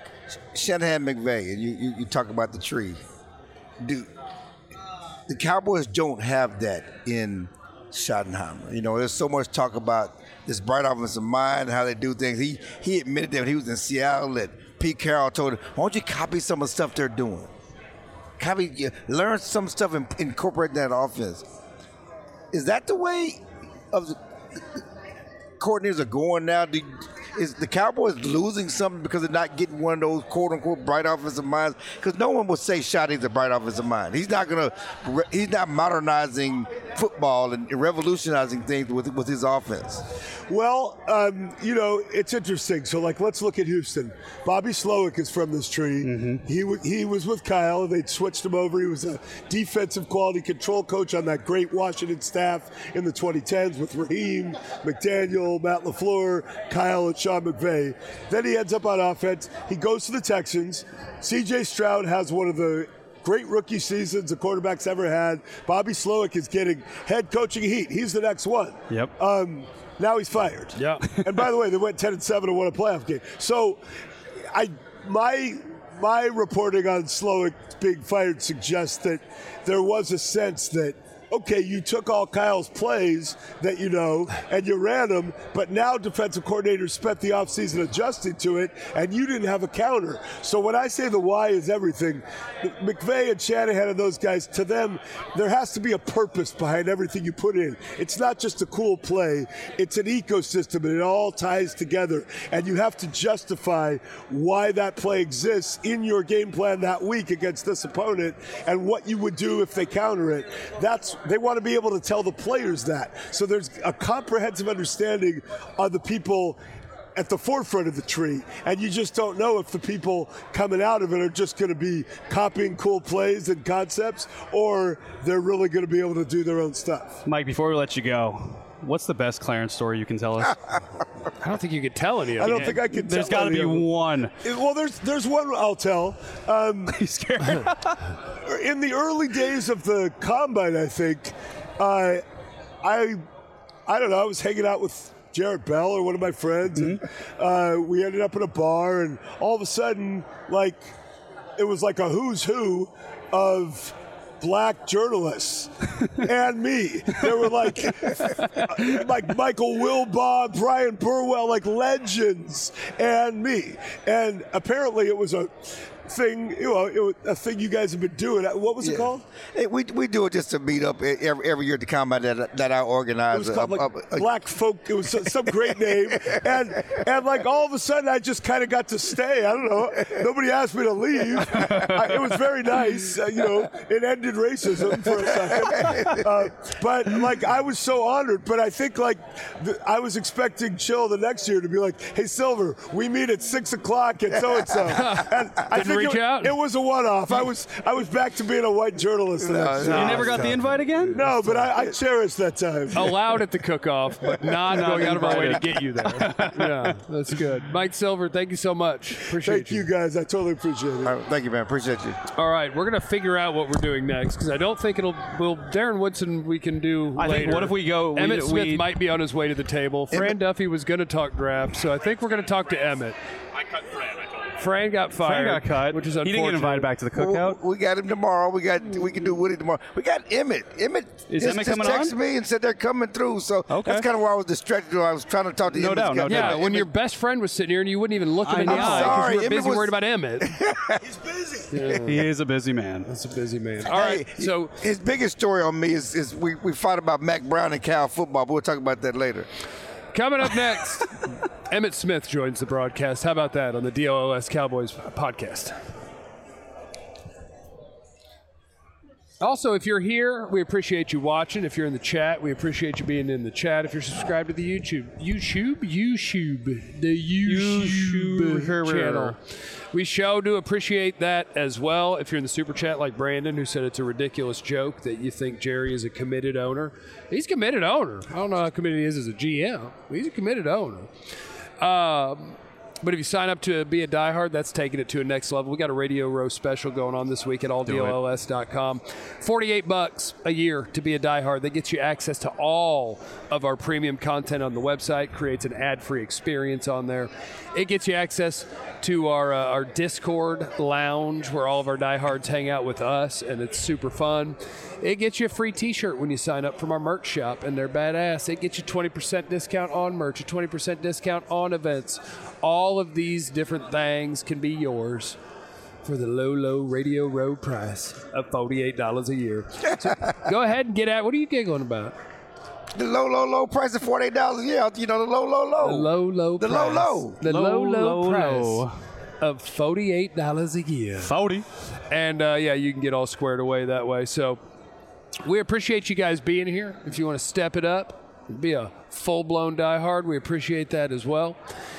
S1: Shanahan McVay, and you, you you talk about the tree. Do the Cowboys don't have that in Schottenheimer? You know, there's so much talk about this bright offensive mind, how they do things. He he admitted that when he was in Seattle that Pete Carroll told him, "Why don't you copy some of the stuff they're doing? Copy, learn some stuff and incorporate that offense." Is that the way of the coordinators are going now? Do, is the Cowboys losing something because they're not getting one of those quote-unquote bright offensive minds? Because no one will say Shotty's a bright offensive mind. He's not gonna. He's not modernizing football and revolutionizing things with with his offense.
S8: Well, um, you know, it's interesting. So, like, let's look at Houston. Bobby Slowick is from this tree. Mm-hmm. He w- he was with Kyle. They'd switched him over. He was a defensive quality control coach on that great Washington staff in the twenty tens with Raheem, McDaniel, Matt LaFleur, Kyle, and Sean McVay. Then he ends up on offense. He goes to the Texans. C J Stroud has one of the great rookie seasons the quarterback's ever had. Bobby Slowick is getting head coaching heat. He's the next one.
S3: Yep.
S8: Um, now he's fired.
S2: Yeah.
S8: And by the way, they went ten and seven and won a playoff game. So, I my my reporting on Slowick being fired suggests that there was a sense that, okay, you took all Kyle's plays that you know, and you ran them, but now defensive coordinators spent the offseason adjusting to it, and you didn't have a counter. So when I say the why is everything, McVay and Shanahan and those guys, to them, there has to be a purpose behind everything you put in. It's not just a cool play. It's an ecosystem, and it all ties together. And you have to justify why that play exists in your game plan that week against this opponent and what you would do if they counter it. That's they want to be able to tell the players that. So there's a comprehensive understanding of the people at the forefront of the tree, and you just don't know if the people coming out of it are just going to be copying cool plays and concepts, or they're really going to be able to do their own stuff.
S3: Mike, before we let you go, what's the best Clarence story you can tell us?
S2: I don't think you could tell any of
S8: I
S2: it.
S8: don't think I can
S3: There's
S8: tell
S3: got to
S8: any
S3: be
S8: of them.
S3: one.
S8: It- Well, there's there's one I'll tell. Um,
S3: He's scared.
S8: in the early days of the combine, I think, uh, I I don't know. I was hanging out with Jarrett Bell or one of my friends, and uh, we ended up in a bar, and all of a sudden, like, it was like a who's who of black journalists and me. There were like like Michael Wilbon, Brian Burwell, like legends, and me. And apparently it was a thing, you know, it was a thing you guys have been doing. What was it
S1: Yeah.
S8: called?
S1: Hey, we we do it just to meet up every, every year at the combine that that I organize.
S8: It was called
S1: uh,
S8: like
S1: uh, uh,
S8: Black Folk. It was some some great name, and and like all of a sudden I just kind of got to stay. I don't know. Nobody asked me to leave. I, it was very nice. Uh, you know, it ended racism for a second. Uh, but like I was so honored. But I think like the, I was expecting Chill the next year to be like, "Hey Silver, we meet at six o'clock at so and so." And I
S2: Didn't
S8: think
S2: reach
S8: it,
S2: out?
S8: it was a one-off. I was I was back to being a white journalist. the next
S1: no,
S8: year.
S3: You never got the invite again?
S8: No, but I, I cherish that time.
S2: Allowed at the cook-off, but not going out of our way to get you there. Yeah, that's good. Mike Silver, thank you so much. Appreciate
S8: Thank you guys. I totally appreciate it.
S1: all right, thank you, man. Appreciate you.
S2: All right, we're gonna figure out what we're doing next because I don't think it'll. Well, Darren Woodson, we can do.
S3: I think,
S2: later.
S3: what if we go- we-
S2: Emmett Smith
S3: we-
S2: might be on his way to the table. Fran
S1: Emmett-
S2: Duffy was gonna talk draft, so I think we're gonna talk to Emmett.
S4: I cut Fran, I told him.
S2: Fran got fired.
S3: Fran got cut.
S2: which is
S3: He
S2: unfortunate.
S3: didn't get invited back to the cookout.
S1: We, we got him tomorrow. We got we can do Woody tomorrow. We got Emmett. Emmett
S3: Is
S1: just,
S3: Emmett
S1: just
S3: coming
S1: texted
S3: on?
S1: me and said they're coming through. So
S3: Okay.
S1: that's kind of why I was distracted. I was trying to talk to
S3: No
S1: Emmett.
S3: doubt, no
S2: Yeah,
S3: doubt.
S2: when your best friend was sitting here and you wouldn't even look him in the
S3: I know.
S2: eye because
S1: Sorry,
S2: you were
S1: Emmett
S2: busy
S1: was-
S2: worried about Emmett.
S8: He's busy.
S3: He is a busy man.
S2: That's a busy man. All right,
S1: Hey,
S2: so
S1: his biggest story on me is, is we, we fought about Mac Brown and Cal football, but we'll talk about that later.
S2: coming up next, Emmett Smith joins the broadcast. How about that on the D O L S Cowboys podcast? Also, if you're here, we appreciate you watching. If you're in the chat, we appreciate you being in the chat. If you're subscribed to the YouTube, YouTube, YouTube, the YouTube
S3: YouTube.
S2: channel, we sure do appreciate that as well. If you're in the super chat, like Brandon, who said it's a ridiculous joke that you think Jerry is a committed owner. He's a committed owner. I don't know how committed he is as a G M. But he's a committed owner. Um, But if you sign up to be a diehard, that's taking it to a next level. We got a Radio Row special going on this week at all D O L S dot com. forty-eight bucks a year to be a diehard. That gets you access to all of our premium content on the website, creates an ad-free experience on there. It gets you access to our uh, our Discord lounge where all of our diehards hang out with us, and it's super fun. It gets you a free t-shirt when you sign up from our merch shop, and they're badass. It gets you twenty percent discount on merch, a twenty percent discount on events. All of these different things can be yours for the low, low Radio Row price of forty-eight dollars a year. So go ahead and get at. What are you giggling about?
S1: The low, low, low price of forty-eight dollars. Yeah, you know, the low, low, low.
S2: The low, low
S1: The
S2: price.
S1: low, low.
S2: The low,
S3: Low,
S2: low,
S3: low,
S2: price
S3: low.
S2: of forty-eight dollars a year.
S3: forty.
S2: And uh, yeah, you can get all squared away that way. So we appreciate you guys being here. If you want to step it up, be a full-blown diehard, we appreciate that as well.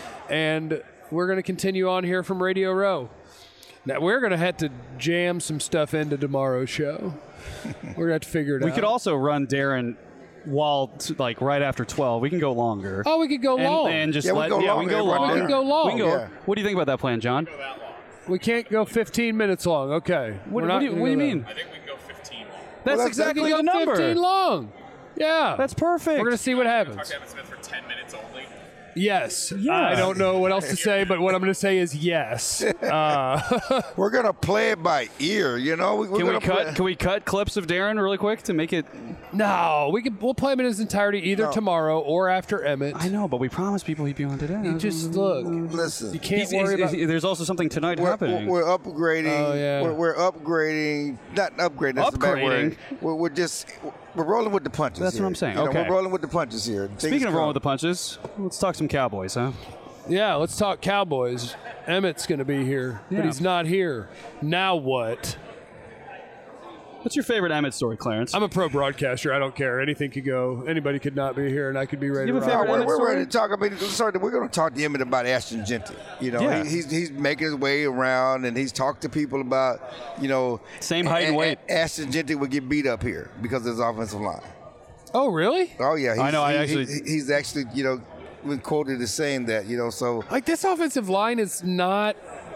S2: And we're going to continue on here from Radio Row. Now, we're going to have to jam some stuff into tomorrow's show. We're going to have to figure it
S3: We
S2: out.
S3: could also run Darren while, t- like, right after twelve. We can go longer.
S2: Oh, we could go
S3: and,
S2: long.
S3: and just
S1: Yeah, we
S3: let,
S1: go
S3: yeah,
S1: longer.
S3: we can go
S1: Everyone
S3: long.
S2: We can go long.
S3: We can go,
S1: Yeah.
S3: What do you think about that plan, John?
S2: we can't go fifteen minutes long. Okay.
S3: What,
S2: We're
S3: what
S2: not
S3: do you,
S2: gonna
S3: what do you
S2: go
S3: mean?
S4: I think we can go fifteen long.
S3: That's
S1: that's-
S3: exactly
S2: We
S3: the
S2: can go
S3: number.
S2: fifteen long. Yeah.
S3: That's perfect.
S2: We're going to see what
S4: Talk
S2: happens.
S4: to Emmett Smith for ten minutes only.
S2: Yes.
S3: Yeah.
S2: I don't know what else to say, but what I'm going to say is yes. Uh,
S1: We're gonna play it by ear. You know, we, we're
S3: Can we
S1: gonna
S3: cut?
S1: play-
S3: Can we cut clips of Darren really quick to make it?
S2: no, we could. We'll play him in his entirety either
S1: No.
S2: tomorrow or after Emmett.
S3: I know, but we promised people he'd be on today.
S2: You just look.
S1: Listen.
S2: You can't
S3: He's-
S2: worry
S3: he's-
S2: about.
S3: there's also something tonight
S1: We're,
S3: happening.
S1: we're upgrading.
S2: Oh, yeah.
S1: We're, we're upgrading. Not upgrading. That's a bad word. We're, we're just we're rolling with the punches.
S3: That's
S1: here.
S3: what I'm saying.
S1: You know,
S3: Okay.
S1: We're rolling with the punches here.
S3: Speaking of rolling with the punches, let's talk some Cowboys, huh?
S2: Yeah, let's talk Cowboys. Emmett's going to be here,
S3: Yeah.
S2: but he's not here. Now what?
S3: What's your favorite Emmett story, Clarence?
S2: I'm a pro broadcaster. I don't care. Anything could go. Anybody could not be here, and I could be ready
S3: You
S2: to
S3: have a
S2: rock.
S3: favorite
S1: we're,
S3: Emmett
S1: we're
S3: story?
S1: ready to talk. I mean, sorry, we're going to talk to Emmett about Ashton Genty. You know,
S3: Yeah.
S1: he, he's he's making his way around, and he's talked to people about, you know,
S3: Same height and
S1: A- A-
S3: weight.
S1: Ashton Genty would get beat up here because of his offensive line.
S2: Oh, really?
S1: Oh yeah, he's,
S3: I know, I
S1: he-
S3: actually-
S1: he- he's actually, you know, been quoted as saying that. You know, so
S2: Like, this offensive line is not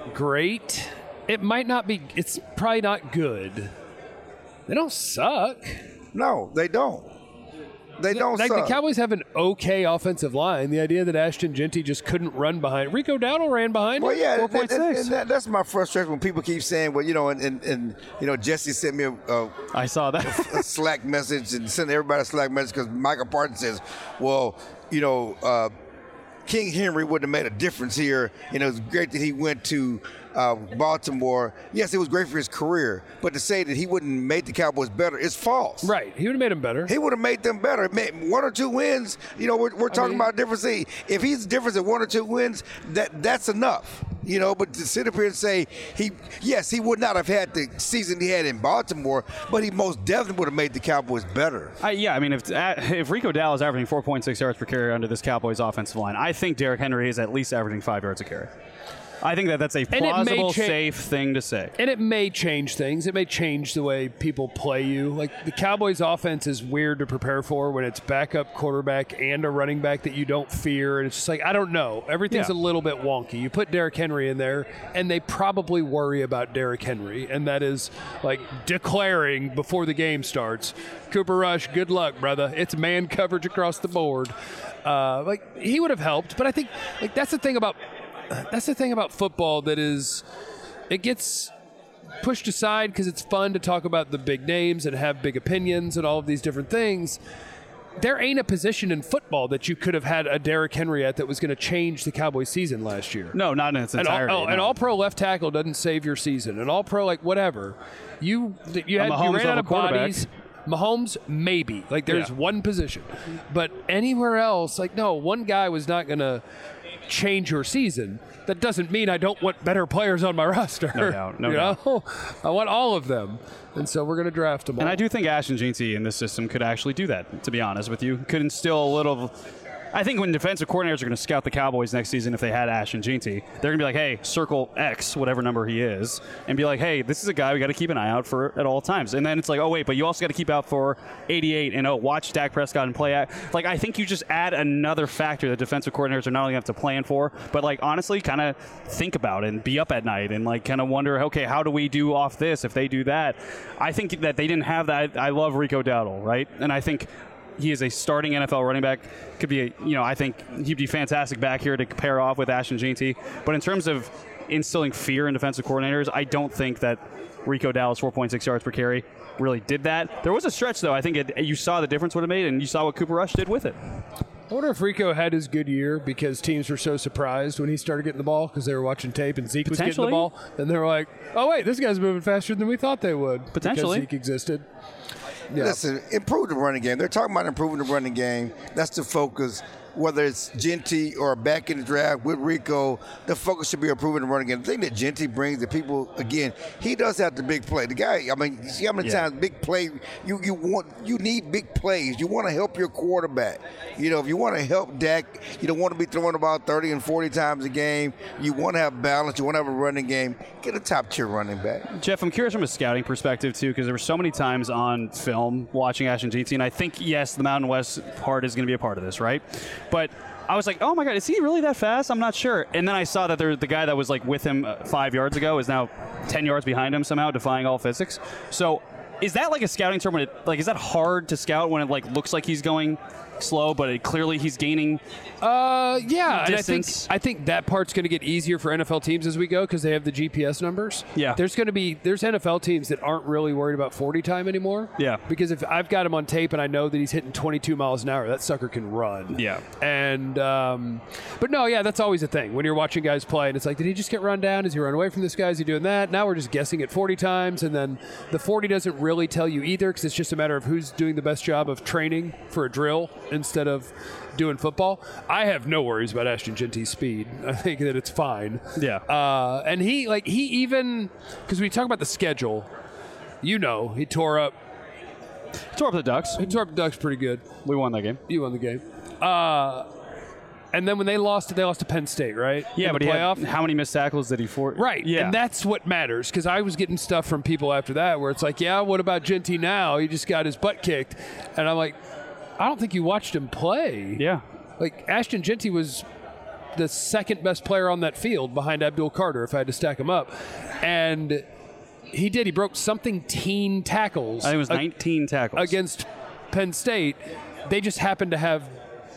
S2: great. It might not be. It's probably not good. They don't suck.
S1: no, they don't. They don't
S2: Like,
S1: suck.
S2: the Cowboys have an okay offensive line. The idea that Ashton Genty just couldn't run behind. Rico Dowdle ran behind
S1: Well,
S2: him.
S1: yeah,
S3: four
S1: and,
S3: point
S1: and-
S3: six.
S1: and that, that's my frustration when people keep saying, well, you know, and, and, and you know, Jesse sent me a, a,
S3: I saw that.
S1: a Slack message and sent everybody a Slack message because Michael Parton says, well, you know, uh, King Henry would have made a difference here, and it was great that he went to uh, Baltimore. Yes, it was great for his career, but to say that he wouldn't make the Cowboys better is false.
S2: Right. He would have made him better.
S1: He would have made them better. Ma- One or two wins, you know, we're, we're talking
S2: mean-
S1: about difference. If he's difference at one or two wins, that that's enough. You know, but to sit up here and say he, yes, he would not have had the season he had in Baltimore, but he most definitely would have made the Cowboys better.
S3: I, yeah, I mean, if if Rico Dowdle is averaging four point six yards per carry under this Cowboys offensive line, I think Derrick Henry is at least averaging five yards a carry. I think that that's a
S2: it may
S3: plausible,
S2: cha-
S3: safe thing to say.
S2: And it may change things. It may change the way people play you. Like, the Cowboys' offense is weird to prepare for when it's backup quarterback and a running back that you don't fear. And it's just like, I don't know. Everything's
S3: Yeah.
S2: a little bit wonky. You put Derrick Henry in there, and they probably worry about Derrick Henry. And that is like declaring before the game starts, Cooper Rush, good luck, brother. It's man coverage across the board. Uh, like, he would have helped. But I think, like, that's the thing about that's the thing about football that is, it gets pushed aside because it's fun to talk about the big names and have big opinions and all of these different things. There ain't a position in football that you could have had a Derrick Henry at that was going to change the Cowboys season last year.
S3: No, not in its
S2: An all,
S3: entirety.
S2: oh,
S3: no.
S2: an all-pro left tackle doesn't save your season. An all-pro, like, whatever. You you,
S3: A
S2: had, you
S3: Mahomes
S2: ran out
S3: level
S2: of
S3: quarterback.
S2: bodies. Mahomes, maybe. Like, there's
S3: Yeah.
S2: one position. But anywhere else, like, no, one guy was not going to change your season. That doesn't mean I don't want better players on my roster.
S3: No doubt, no
S2: you
S3: doubt.
S2: know? I want all of them. And so we're going to draft them all.
S3: And I do think Ashton Genty in this system could actually do that, to be honest with you. Could instill a little. I think when defensive coordinators are going to scout the Cowboys next season, if they had Ashton Genty, they're going to be like, hey, circle X, whatever number he is, and be like, hey, this is a guy we got to keep an eye out for at all times. And then it's like, oh, wait, but you also got to keep out for eighty-eight, and oh, watch Dak Prescott and play at. Like, I think you just add another factor that defensive coordinators are not only going to have to plan for, but, like, honestly, kind of think about and be up at night and, like, kind of wonder, okay, how do we do off this if they do that? I think that they didn't have that. I love Rico Dowdle, right? And I think he is a starting N F L running back. Could be, a, you know, I think he'd be fantastic back here to pair off with Ashton Genty. But in terms of instilling fear in defensive coordinators, I don't think that Rico Dowdle's four point six yards per carry really did that. There was a stretch, though. I think it, you saw the difference would have made, and you saw what Cooper Rush did with it.
S2: I wonder if Rico had his good year because teams were so surprised when he started getting the ball because they were watching tape and Zeke was getting the
S3: Potentially.
S2: ball. And they were like, oh, wait, this guy's moving faster than we thought they would.
S3: Potentially.
S2: Because Zeke existed. Yeah.
S1: Listen, improve the running game. They're talking about improving the running game. That's the focus. Whether it's Genty or back in the draft with Rico, the focus should be improving the running game. The thing that Genty brings to people, again, he does have the big play. The guy, I mean, you see how many
S3: Yeah.
S1: times big play, you, you want, you need big plays. You want to help your quarterback. You know, if you want to help Dak, you don't want to be throwing about thirty and forty times a game. You want to have balance. You want to have a running game. Get a top-tier running back.
S3: Jeff, I'm curious from a scouting perspective, too, because there were so many times on film watching Ashton Genty, and I think, yes, the Mountain West part is going to be a part of this, right? But I was like, oh, my God, is he really that fast? I'm not sure. And then I saw that there, the guy that was, like, with him uh, five yards ago is now ten yards behind him somehow, defying all physics. So is that, like, a scouting term? When it, like, is that hard to scout when it, like, looks like he's going slow, but it, clearly he's gaining
S2: Uh, yeah, and I think
S3: distance?
S2: I think that part's going to get easier for N F L teams as we go because they have the G P S numbers.
S3: Yeah.
S2: there's going to be there's N F L teams that aren't really worried about forty time anymore.
S3: Yeah.
S2: because if I've got him on tape and I know that he's hitting twenty-two miles an hour, that sucker can run.
S3: Yeah.
S2: and um, but no, yeah, that's always a thing when you're watching guys play, and it's like, did he just get run down? Is he run away from this guy? Is he doing that? Now we're just guessing at forty times, and then the forty doesn't really tell you either because it's just a matter of who's doing the best job of training for a drill instead of doing football. I have no worries about Ashton Genty's speed. I think that it's fine.
S3: Yeah.
S2: Uh, and he, like, he even, because we talk about the schedule, You know, he tore up.
S3: Tore up the Ducks.
S2: He tore up the Ducks pretty good.
S3: We won that game.
S2: You won the game. Uh, and then when they lost, they lost to Penn State, right?
S3: Yeah,
S2: In
S3: but
S2: the
S3: he
S2: playoff.
S3: had, how many missed tackles did he for?
S2: Right.
S3: Yeah.
S2: And that's what matters, because I was getting stuff from people after that where it's like, yeah, what about Genty now? He just got his butt kicked. And I'm like, I don't think you watched him play.
S3: Yeah.
S2: Like, Ashton Genty was the second best player on that field behind Abdul Carter, if I had to stack him up. And he did. He broke something teen tackles.
S3: I think it was
S2: ag-
S3: nineteen tackles.
S2: Against Penn State. They just happened to have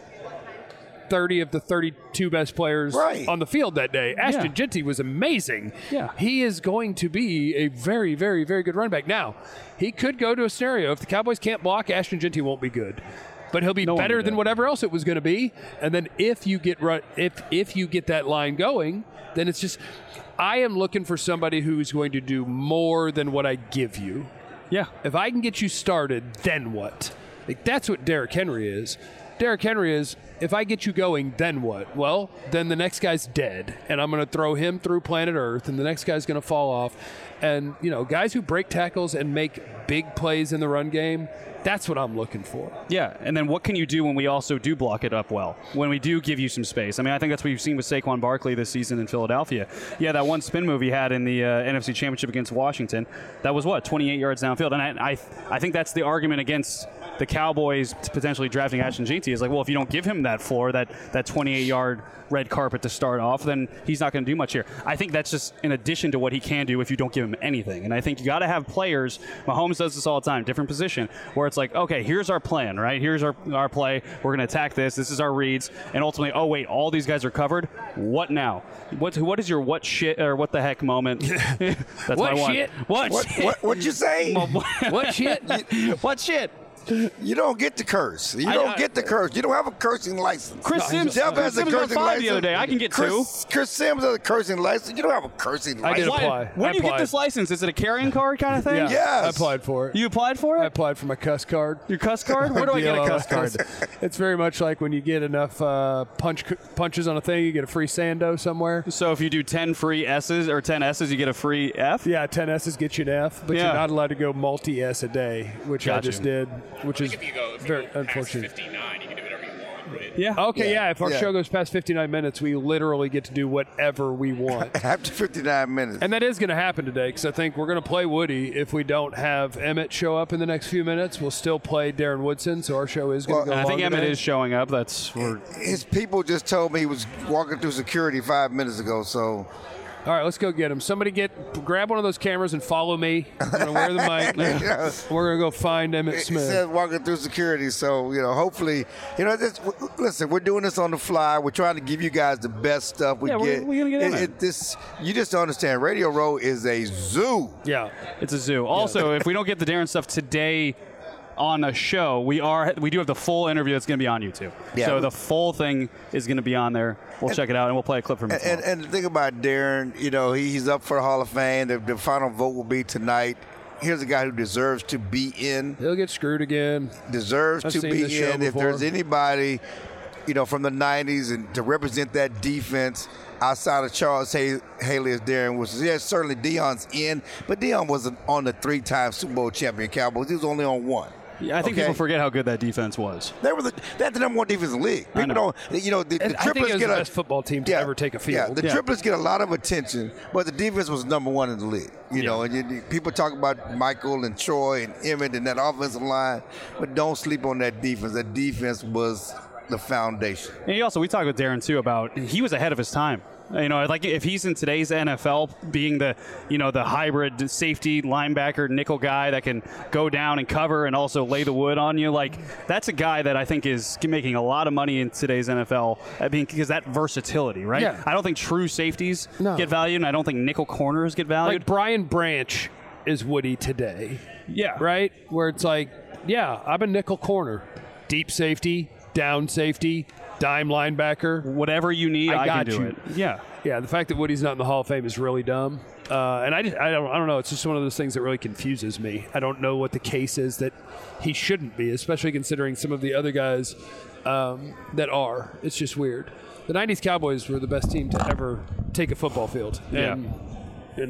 S2: thirty of the thirty-two best players
S1: Right.
S2: on the field that day. Ashton
S3: Yeah.
S2: Genty was amazing.
S3: Yeah.
S2: He is going to be a very, very, very good running back. Now, he could go to a scenario. If the Cowboys can't block, Ashton Genty won't be good. But he'll be
S3: No one
S2: better
S3: will be
S2: than
S3: good.
S2: whatever else it was going to be. And then if you get run, if if you get that line going, then it's just I am looking for somebody who's going to do more than what I give you.
S3: Yeah.
S2: If I can get you started, then what? Like, that's what Derrick Henry is. Derrick Henry is, if I get you going, then what? Well, then the next guy's dead, and I'm going to throw him through planet Earth, and the next guy's going to fall off. And, you know, guys who break tackles and make big plays in the run game, that's what I'm looking for.
S3: Yeah, and then what can you do when we also do block it up well? When we do give you some space? I mean, I think that's what you've seen with Saquon Barkley this season in Philadelphia. Yeah, that one spin move he had in the uh, N F C Championship against Washington, that was what, twenty-eight yards downfield? And I, I, I think that's the argument against the Cowboys potentially drafting Ashton Genty is like, well, if you don't give him that floor, that that twenty-eight-yard red carpet to start off, then he's not going to do much here. I think that's just in addition to what he can do if you don't give him anything. And I think you got to have players, Mahomes does this all the time, different position, where it's like, okay, here's our plan, right? Here's our, our play. We're going to attack this. This is our reads. And ultimately, oh, wait, all these guys are covered. What now? What What is your what shit or what the heck moment? That's
S2: What
S3: my one.
S2: shit?
S3: What,
S1: What,
S3: shit?
S1: what, what'd you say?
S2: What shit?
S3: What shit?
S1: You don't get the curse. You
S3: I-
S1: don't
S3: I-
S1: get the curse. You don't have a cursing license.
S3: Chris Sims,
S1: Jeff
S3: Chris
S1: has a
S3: Sims got
S1: cursing
S3: five
S1: license.
S3: the other day. I can get two.
S1: Chris, Chris Sims has a cursing license. You don't have a cursing
S2: I did
S1: license.
S2: apply.
S3: When
S2: I
S3: do you get
S2: applied.
S3: this license? Is it a carrying card kind of thing?
S2: Yeah,
S1: Yes.
S2: I applied for it.
S3: You applied for
S2: I
S3: it?
S2: applied for my cuss card.
S3: Your cuss card? Where do I get a cuss card?
S2: It's very much like when you get enough uh, punch punches on a thing, you get a free Sando somewhere.
S3: So if you do ten free S's or ten S's, you get a free F?
S2: Yeah, ten S's get you an F, but
S3: Yeah.
S2: you're not allowed to go multi S a day, which I
S3: Got
S2: just
S3: you.
S2: did, which is
S4: If you go, if you
S2: very
S4: go past
S2: unfortunate.
S4: fifty-nine, you can do whatever you want, right?
S3: Yeah.
S2: Okay, yeah. If our
S1: Yeah.
S2: show goes past fifty-nine minutes, we literally get to do whatever we want.
S1: After fifty-nine minutes.
S2: And that is going to happen today because I think we're going to play Woody. If we don't have Emmett show up in the next few minutes, we'll still play Darren Woodson. So our show is going to
S1: Well,
S2: go
S3: I think
S2: long
S3: Emmett
S2: today.
S3: is showing up. That's we're,
S1: His people just told me he was walking through security five minutes ago, so
S2: All right, let's go get him. Somebody get grab one of those cameras and follow me. I'm going to wear the mic.
S1: Yeah.
S2: We're going to go find Emmett
S1: It
S2: Smith.
S1: says walking through security, so you know. Hopefully, you know. This, w- listen, we're doing this on the fly. We're trying to give you guys the best stuff we
S3: Yeah, we're-
S1: get.
S3: we're gonna get in
S1: It-
S3: there.
S1: it- this, you just don't understand. Radio Row is a zoo.
S2: Yeah.
S3: it's a zoo. Also, if we don't get the Darren stuff today on a show, we are we do have the full interview that's going to be on YouTube.
S1: Yeah.
S3: So the full thing is going to be on there. We'll check it out and we'll play a clip from it.
S1: And, and,
S3: tomorrow.
S1: and the thing about Darren, you know, he, he's up for the Hall of Fame. The, the final vote will be tonight. Here's a guy who deserves to be in.
S2: He'll get screwed again.
S1: Deserves
S2: I've
S1: to
S2: seen
S1: be
S2: this show
S1: in. If
S2: before.
S1: there's anybody, you know, from the nineties and to represent that defense outside of Charles Hay- Haley as Darren was, yeah, certainly Deion's in, but Deion wasn't on the three-time Super Bowl champion Cowboys. He was only on one.
S3: Yeah, I think
S1: okay.
S3: people forget how good that defense was.
S1: They were the, that's the number one defense in the league. People
S3: know.
S1: don't, you know, the, the
S2: And I think
S1: triplets
S2: it was
S1: get
S2: the
S1: a
S2: best football team to ever take a
S1: Yeah,
S2: field.
S1: the
S3: Yeah.
S1: triplets get a lot of attention, but the defense was number one in the league. You know, and you, people talk about Michael and Troy and Emmett and that offensive line, but don't sleep on that defense. That defense was the foundation.
S3: And he also, we talked with Darren too about he was ahead of his time. You know, like if he's in today's N F L, being the you know the hybrid safety linebacker nickel guy that can go down and cover and also lay the wood on you, like that's a guy that I think is making a lot of money in today's N F L. I mean, because that versatility, right?
S2: Yeah.
S3: I don't think true safeties
S2: No.
S3: get valued, and I don't think nickel corners get valued.
S2: Like Brian Branch is Woody today.
S3: yeah,
S2: Right? Where it's like, yeah, I'm a nickel corner. Deep safety, down safety, dime linebacker.
S3: Whatever you need,
S2: I
S3: I,
S2: got
S3: can do
S2: you.
S3: it. Yeah.
S2: Yeah, the fact that Woody's not in the Hall of Fame is really dumb. Uh, and I, just, I, don't, I don't know. It's just one of those things that really confuses me. I don't know what the case is that he shouldn't be, especially considering some of the other guys um, that are. It's just weird. The nineties Cowboys were the best team to ever take a football field. And, and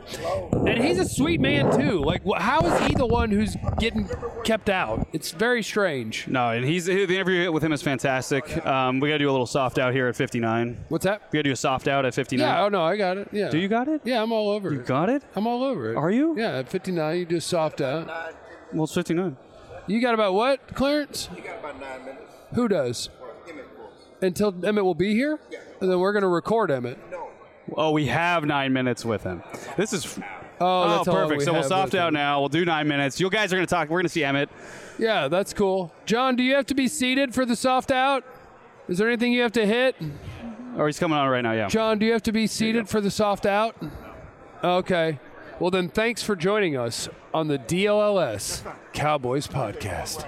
S2: And he's a sweet man, too. Like, wh- how is he the one who's getting kept out? It's very strange.
S3: No, and he's the interview with him is fantastic. Um, we got to do a little soft out here at fifty-nine.
S2: What's that?
S3: We got to do a soft out at fifty-nine.
S2: Yeah, oh, no, I got it. Yeah.
S3: Do you got it?
S2: Yeah, I'm all over
S3: You
S2: it.
S3: got it?
S2: I'm all over it.
S3: Are you?
S2: Yeah, at fifty-nine, you do a soft out.
S3: Well, it's fifty-nine.
S2: You got about what, Clarence?
S1: You got about nine minutes.
S2: Who does? Until Emmett will be here? And then we're going to record Emmett.
S3: Oh, we have nine minutes with him. This is.
S2: Oh, that's all
S3: perfect.
S2: we
S3: So we'll
S2: have
S3: soft
S2: with
S3: out
S2: him.
S3: now. We'll do nine minutes. You guys are going to talk. We're going to see Emmett.
S2: Yeah, that's cool. John, do you have to be seated for the soft out? Is there anything you have to hit?
S3: Or he's coming on right now, yeah.
S2: John, do you have to be seated for the soft out? Okay. Well, then thanks for joining us on the D L L S Cowboys podcast.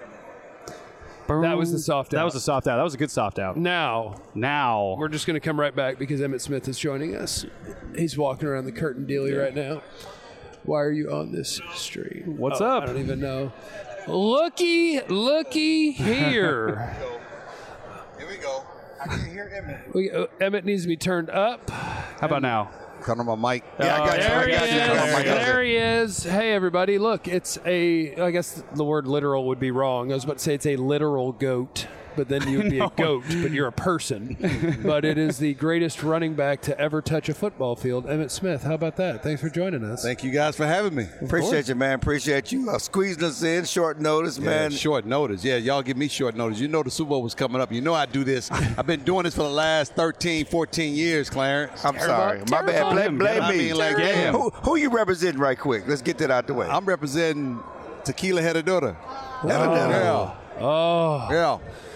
S2: That was the soft out.
S3: That was a soft out. That was a good soft out.
S2: Now,
S3: Now.
S2: we're just going to come right back because Emmett Smith is joining us. He's walking around the curtain dealy right now. Why are you on this stream?
S3: What's
S2: Oh,
S3: up?
S2: I don't even know. Looky, looky here.
S1: Here we go. I can hear Emmett.
S2: We, uh, Emmett needs to be turned up.
S3: How about now?
S1: Turn on my mic. Yeah, I got you.
S2: There
S1: I
S2: he
S1: got you. Turn on my
S2: is.
S1: mic.
S2: There he is. Hey, everybody. Look, it's a, I guess the word literal would be wrong. I was about to say it's a literal goat, but then you would be a goat, but you're a person. But it is the greatest running back to ever touch a football field, Emmett Smith. How about that? Thanks for joining us.
S9: Thank you guys for having me.
S1: Appreciate you, man. Appreciate you uh, squeezing us in short notice,
S9: Yeah,
S1: man.
S9: short notice. Yeah, y'all give me short notice. You know the Super Bowl was coming up. You know I do this. I've been doing this for the last thirteen, fourteen years, Clarence.
S1: I'm sorry. My bad. Blame, blame
S9: I
S1: me.
S9: mean, like,
S1: Hey,
S9: damn.
S1: who, who you representing right quick? Let's get that out the way.
S9: I'm representing Tequila Heredota.
S1: Heredota.
S9: Yeah.
S2: Oh,
S9: Yeah.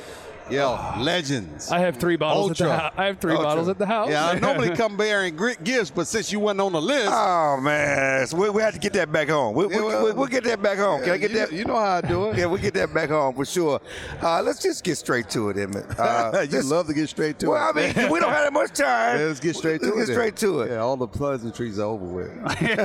S9: Yeah. Legends.
S2: I have three bottles at the
S9: Ultra.
S2: house. I have three
S1: Ultra.
S2: bottles at the house.
S9: Yeah, I normally come bearing gri- gifts, but since you wasn't on the list,
S1: Oh, man. So we, we have to get that back home. We, we,
S9: Yeah, well,
S1: we, we'll get that back home. Can I get
S9: you,
S1: that?
S9: you know how I do it.
S1: Yeah, we'll get that back home for sure. Uh, let's just get straight to it, Emmett. Uh,
S9: you
S1: just-
S9: love to get straight to
S1: well,
S9: it.
S1: I mean, we don't have that much time.
S9: Yeah, let's get straight to
S1: Let's
S9: it.
S1: get
S9: then.
S1: straight to it.
S9: Yeah, all the pleasantries are over with.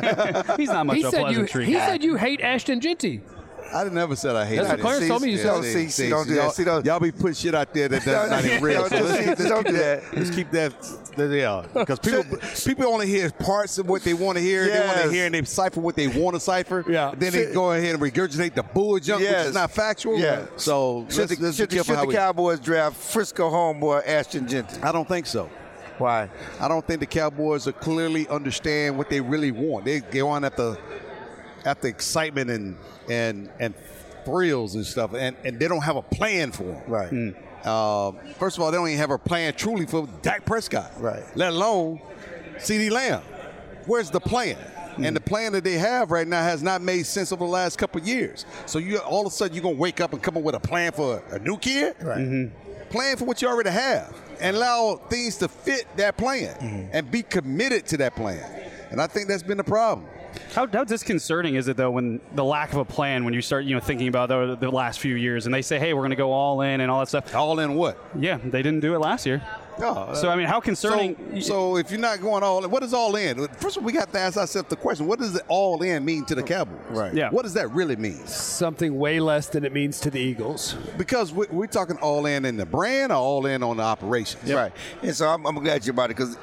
S3: He's not much
S2: He
S3: of a
S2: said you.
S3: pleasantry
S2: He
S3: guy.
S2: said you hate Ashton Genty.
S9: I never said I hate
S2: That's
S9: it.
S2: what Clarence
S1: See,
S2: told me you
S1: see,
S2: said.
S1: don't see, see, don't do that.
S9: y'all,
S1: See, don't-
S9: y'all be putting shit out there that does not even real.
S1: Don't
S9: So
S1: do
S9: let's,
S1: that.
S9: keep, let's,
S1: Don't
S9: keep
S1: do
S9: that,
S1: that.
S9: let's keep that. that yeah, because people people only hear parts of what they want to hear. They want
S1: Yes.
S9: to hear and they cipher what they want to cipher.
S2: Yeah.
S9: Then they
S1: Should-
S9: go ahead and regurgitate the bull junk, which
S1: Yes.
S9: is not factual.
S1: Yeah.
S9: So
S1: Should
S9: let's,
S1: the,
S9: let's
S1: should
S9: be
S1: the,
S9: careful
S1: should
S9: how
S1: the
S9: we.
S1: Cowboys draft Frisco homeboy Ashton Genty?
S9: I don't think so.
S1: Why?
S9: I don't think the Cowboys are clearly understand what they really want. They go on at the at the excitement and and and thrills and stuff, and, and they don't have a plan for them.
S1: Right.
S9: Uh, first of all, they don't even have a plan truly for Dak Prescott.
S1: Right.
S9: Let alone CeeDee Lamb. Where's the plan? And the plan that they have right now has not made sense over the last couple of years. So you all of a sudden you're gonna wake up and come up with a plan for a, a new kid.
S1: Right.
S9: Plan for what you already have and allow things to fit that plan
S1: Mm-hmm.
S9: and be committed to that plan. And I think that's been the problem.
S3: How, how disconcerting is it though when the lack of a plan when you start you know thinking about the, the last few years and they say hey we're going to go all in and all that stuff.
S9: All in what?
S3: Yeah, they didn't do it last year.
S9: No.
S3: So I mean, how concerning?
S9: So, so if you're not going all in, what is all in? First of all, we got to ask ourselves the question: what does the all in mean to the Cowboys?
S1: Right.
S3: Yeah.
S9: What does that really mean?
S2: Something way less than it means to the Eagles.
S9: Because we, we're talking all in in the brand or all in on the operations.
S1: Right. And so I'm, I'm glad you're about it because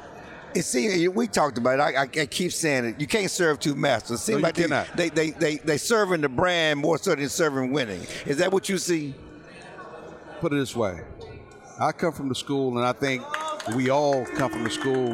S1: it seems we talked about it. I, I, I keep saying it. You can't serve two masters. It seems
S9: No, you
S1: like they,
S9: cannot.
S1: they they they they serving the brand more so than serving winning. Is that what you see?
S9: Put it this way: I come from the school, and I think we all come from the school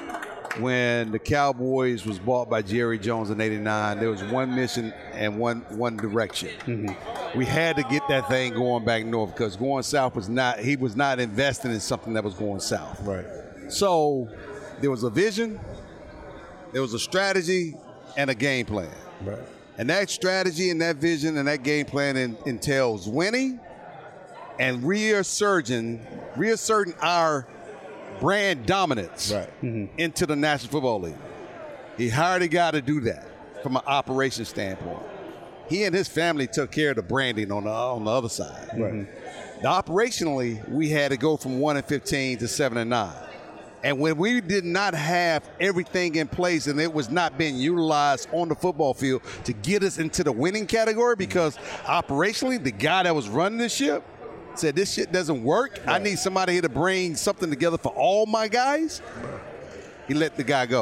S9: when the Cowboys was bought by Jerry Jones in eighty-nine. There was one mission and one one direction.
S1: Mm-hmm.
S9: We had to get that thing going back north because going south was not. He was not investing in something that was going south.
S1: Right.
S9: So there was a vision, there was a strategy, and a game plan.
S1: Right.
S9: And that strategy and that vision and that game plan in, entails winning and reasserting, reasserting our brand dominance
S1: Right.
S9: into the National Football League. He hired a guy to do that from an operations standpoint. He and his family took care of the branding on the, on the other side.
S1: Right.
S9: The operationally, we had to go from one and fifteen to seven and nine. And when we did not have everything in place and it was not being utilized on the football field to get us into the winning category, because operationally, the guy that was running the ship said, this shit doesn't work. I need somebody here to bring something together for all my guys. He let the guy go.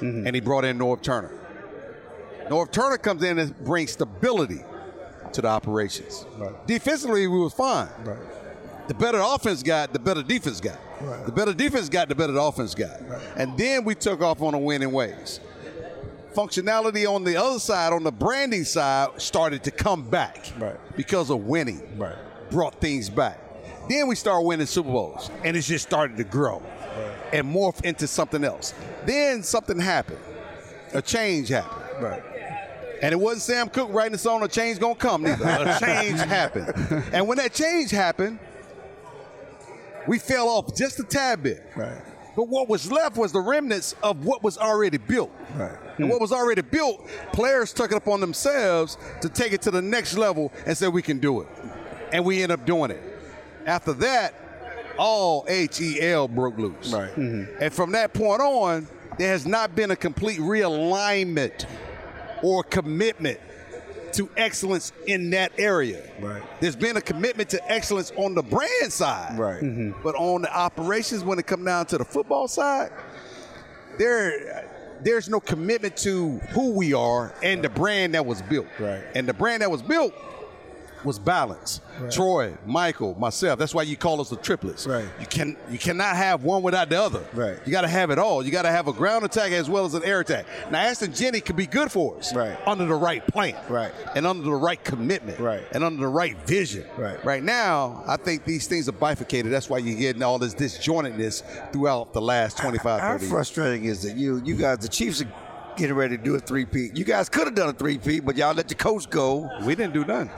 S9: mm-hmm. and he brought in Norv Turner. Norv Turner comes in and brings stability to the operations. Right. Defensively, we was fine. Right. The better the offense got, the better defense got. Right. The better defense got, the better the offense got. Right. And then we took off on a winning ways. Functionality on the other side, on the branding side, started to come back right. because of winning. Right. Brought things back. Then we started winning Super Bowls, and it just started to grow right. and morph into something else. Then something happened. A change happened. Right. And it wasn't Sam Cooke writing the song, a change gonna come, neither. A change happened. And when that change happened, we fell off just a tad bit. Right. But what was left was the remnants of what was already built. Right. And what was already built, players took it upon themselves to take it to the next level and say we can do it. And we end up doing it. After that, all H E L broke loose. Right. Mm-hmm. And from that point on, there has not been a complete realignment or commitment to excellence in that area. Right. There's been a commitment to excellence on the brand side. Right. Mm-hmm. But on the operations, when it comes down to the football side, there there's no commitment to who we are and the brand that was built. Right. And the brand that was built was balance. Right. Troy, Michael, myself. That's why you call us the triplets. Right. You can you cannot have one without the other. Right. You got to have it all. You got to have a ground attack as well as an air attack. Now, Ashton Jenney could be good for us. Right. Under the right plan. Right. And under the right commitment. Right. And under the right vision. Right. Right now, I think these things are bifurcated. That's why you're getting all this disjointedness throughout the last twenty-five,
S1: How
S9: thirty years.
S1: frustrating is that you you guys, the Chiefs are getting ready to do a three-peat. You guys could have done a three-peat, but y'all let your coach go.
S9: We didn't do none.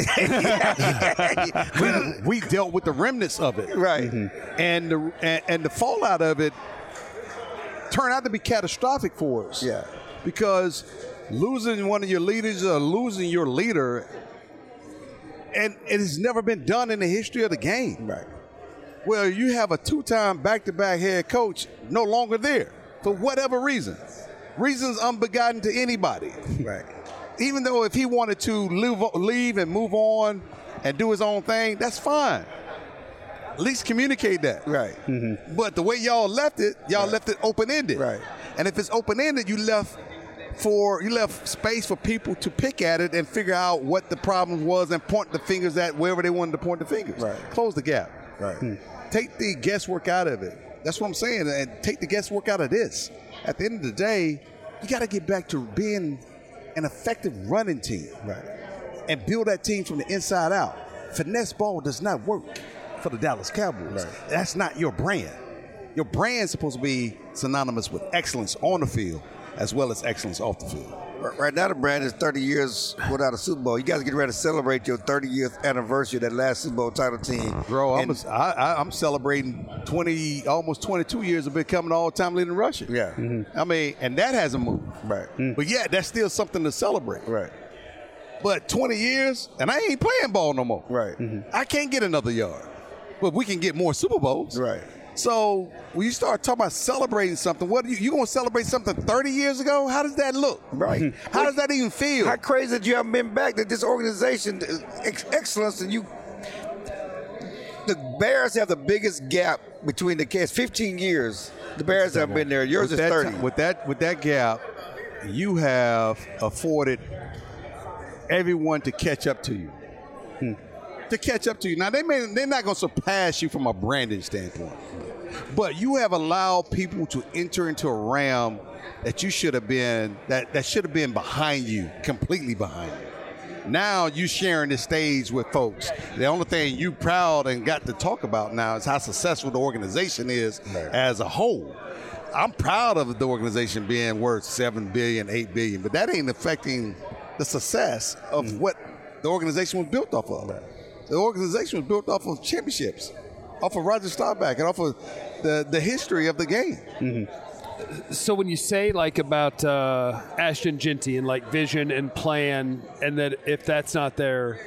S9: we, we dealt with the remnants of it. Right. Mm-hmm. And, the, and, and the fallout of it turned out to be catastrophic for us. Yeah. Because losing one of your leaders or losing your leader, and it has never been done in the history of the game. Right. Well, you have a two-time back-to-back head coach no longer there for whatever reason. Reasons unbegotten to anybody. Right. Even though if he wanted to leave, leave and move on and do his own thing, that's fine. At least communicate that. Right. Mm-hmm. But the way y'all left it, y'all right. left it open-ended. Right. And if it's open-ended, you left for you left space for people to pick at it and figure out what the problem was and point the fingers at wherever they wanted to point the fingers. Right. Close the gap. Right. Hmm. Take the guesswork out of it. That's what I'm saying. And take the guesswork out of this. At the end of the day, you got to get back to being an effective running team. Right. And build that team from the inside out. Finesse ball does not work for the Dallas Cowboys. Right. That's not your brand. Your brand's supposed to be synonymous with excellence on the field as well as excellence off the field.
S1: Right now, the brand is thirty years without a Super Bowl. You guys get ready to celebrate your thirtieth anniversary of that last Super Bowl title team.
S9: Bro, I'm, a, I, I, I'm celebrating twenty, almost twenty-two years of becoming an all-time leading rusher. Yeah. Mm-hmm. I mean, and that hasn't moved. Right. Mm-hmm. But yeah, that's still something to celebrate. Right. But twenty years, and I ain't playing ball no more. Right. Mm-hmm. I can't get another yard. But we can get more Super Bowls. Right. So when you start talking about celebrating something, what are you, you going to celebrate something thirty years ago? How does that look? Right. How does that even feel?
S1: How crazy that you haven't been back, that this organization, ex- excellence, and you, the Bears have the biggest gap between the cats. fifteen years, the Bears have been there. Yours
S9: with
S1: is thirty.
S9: Time, with that, with that gap, you have afforded everyone to catch up to you. Hmm. To catch up to you. Now, they may, they're not going to surpass you from a branding standpoint. But you have allowed people to enter into a realm that you should have been, that, that should have been behind you, completely behind you. Now you sharing the stage with folks. The only thing you proud and got to talk about now is how successful the organization is right. as a whole. I'm proud of the organization being worth seven billion dollars, eight billion dollars, but that ain't affecting the success of mm-hmm. what the organization was built off of. Right. The organization was built off of championships, off of Roger Staubach, and off of the, the history of the game.
S2: Mm-hmm. So when you say like about uh, Ashton Jenney and like vision and plan, and that if that's not there,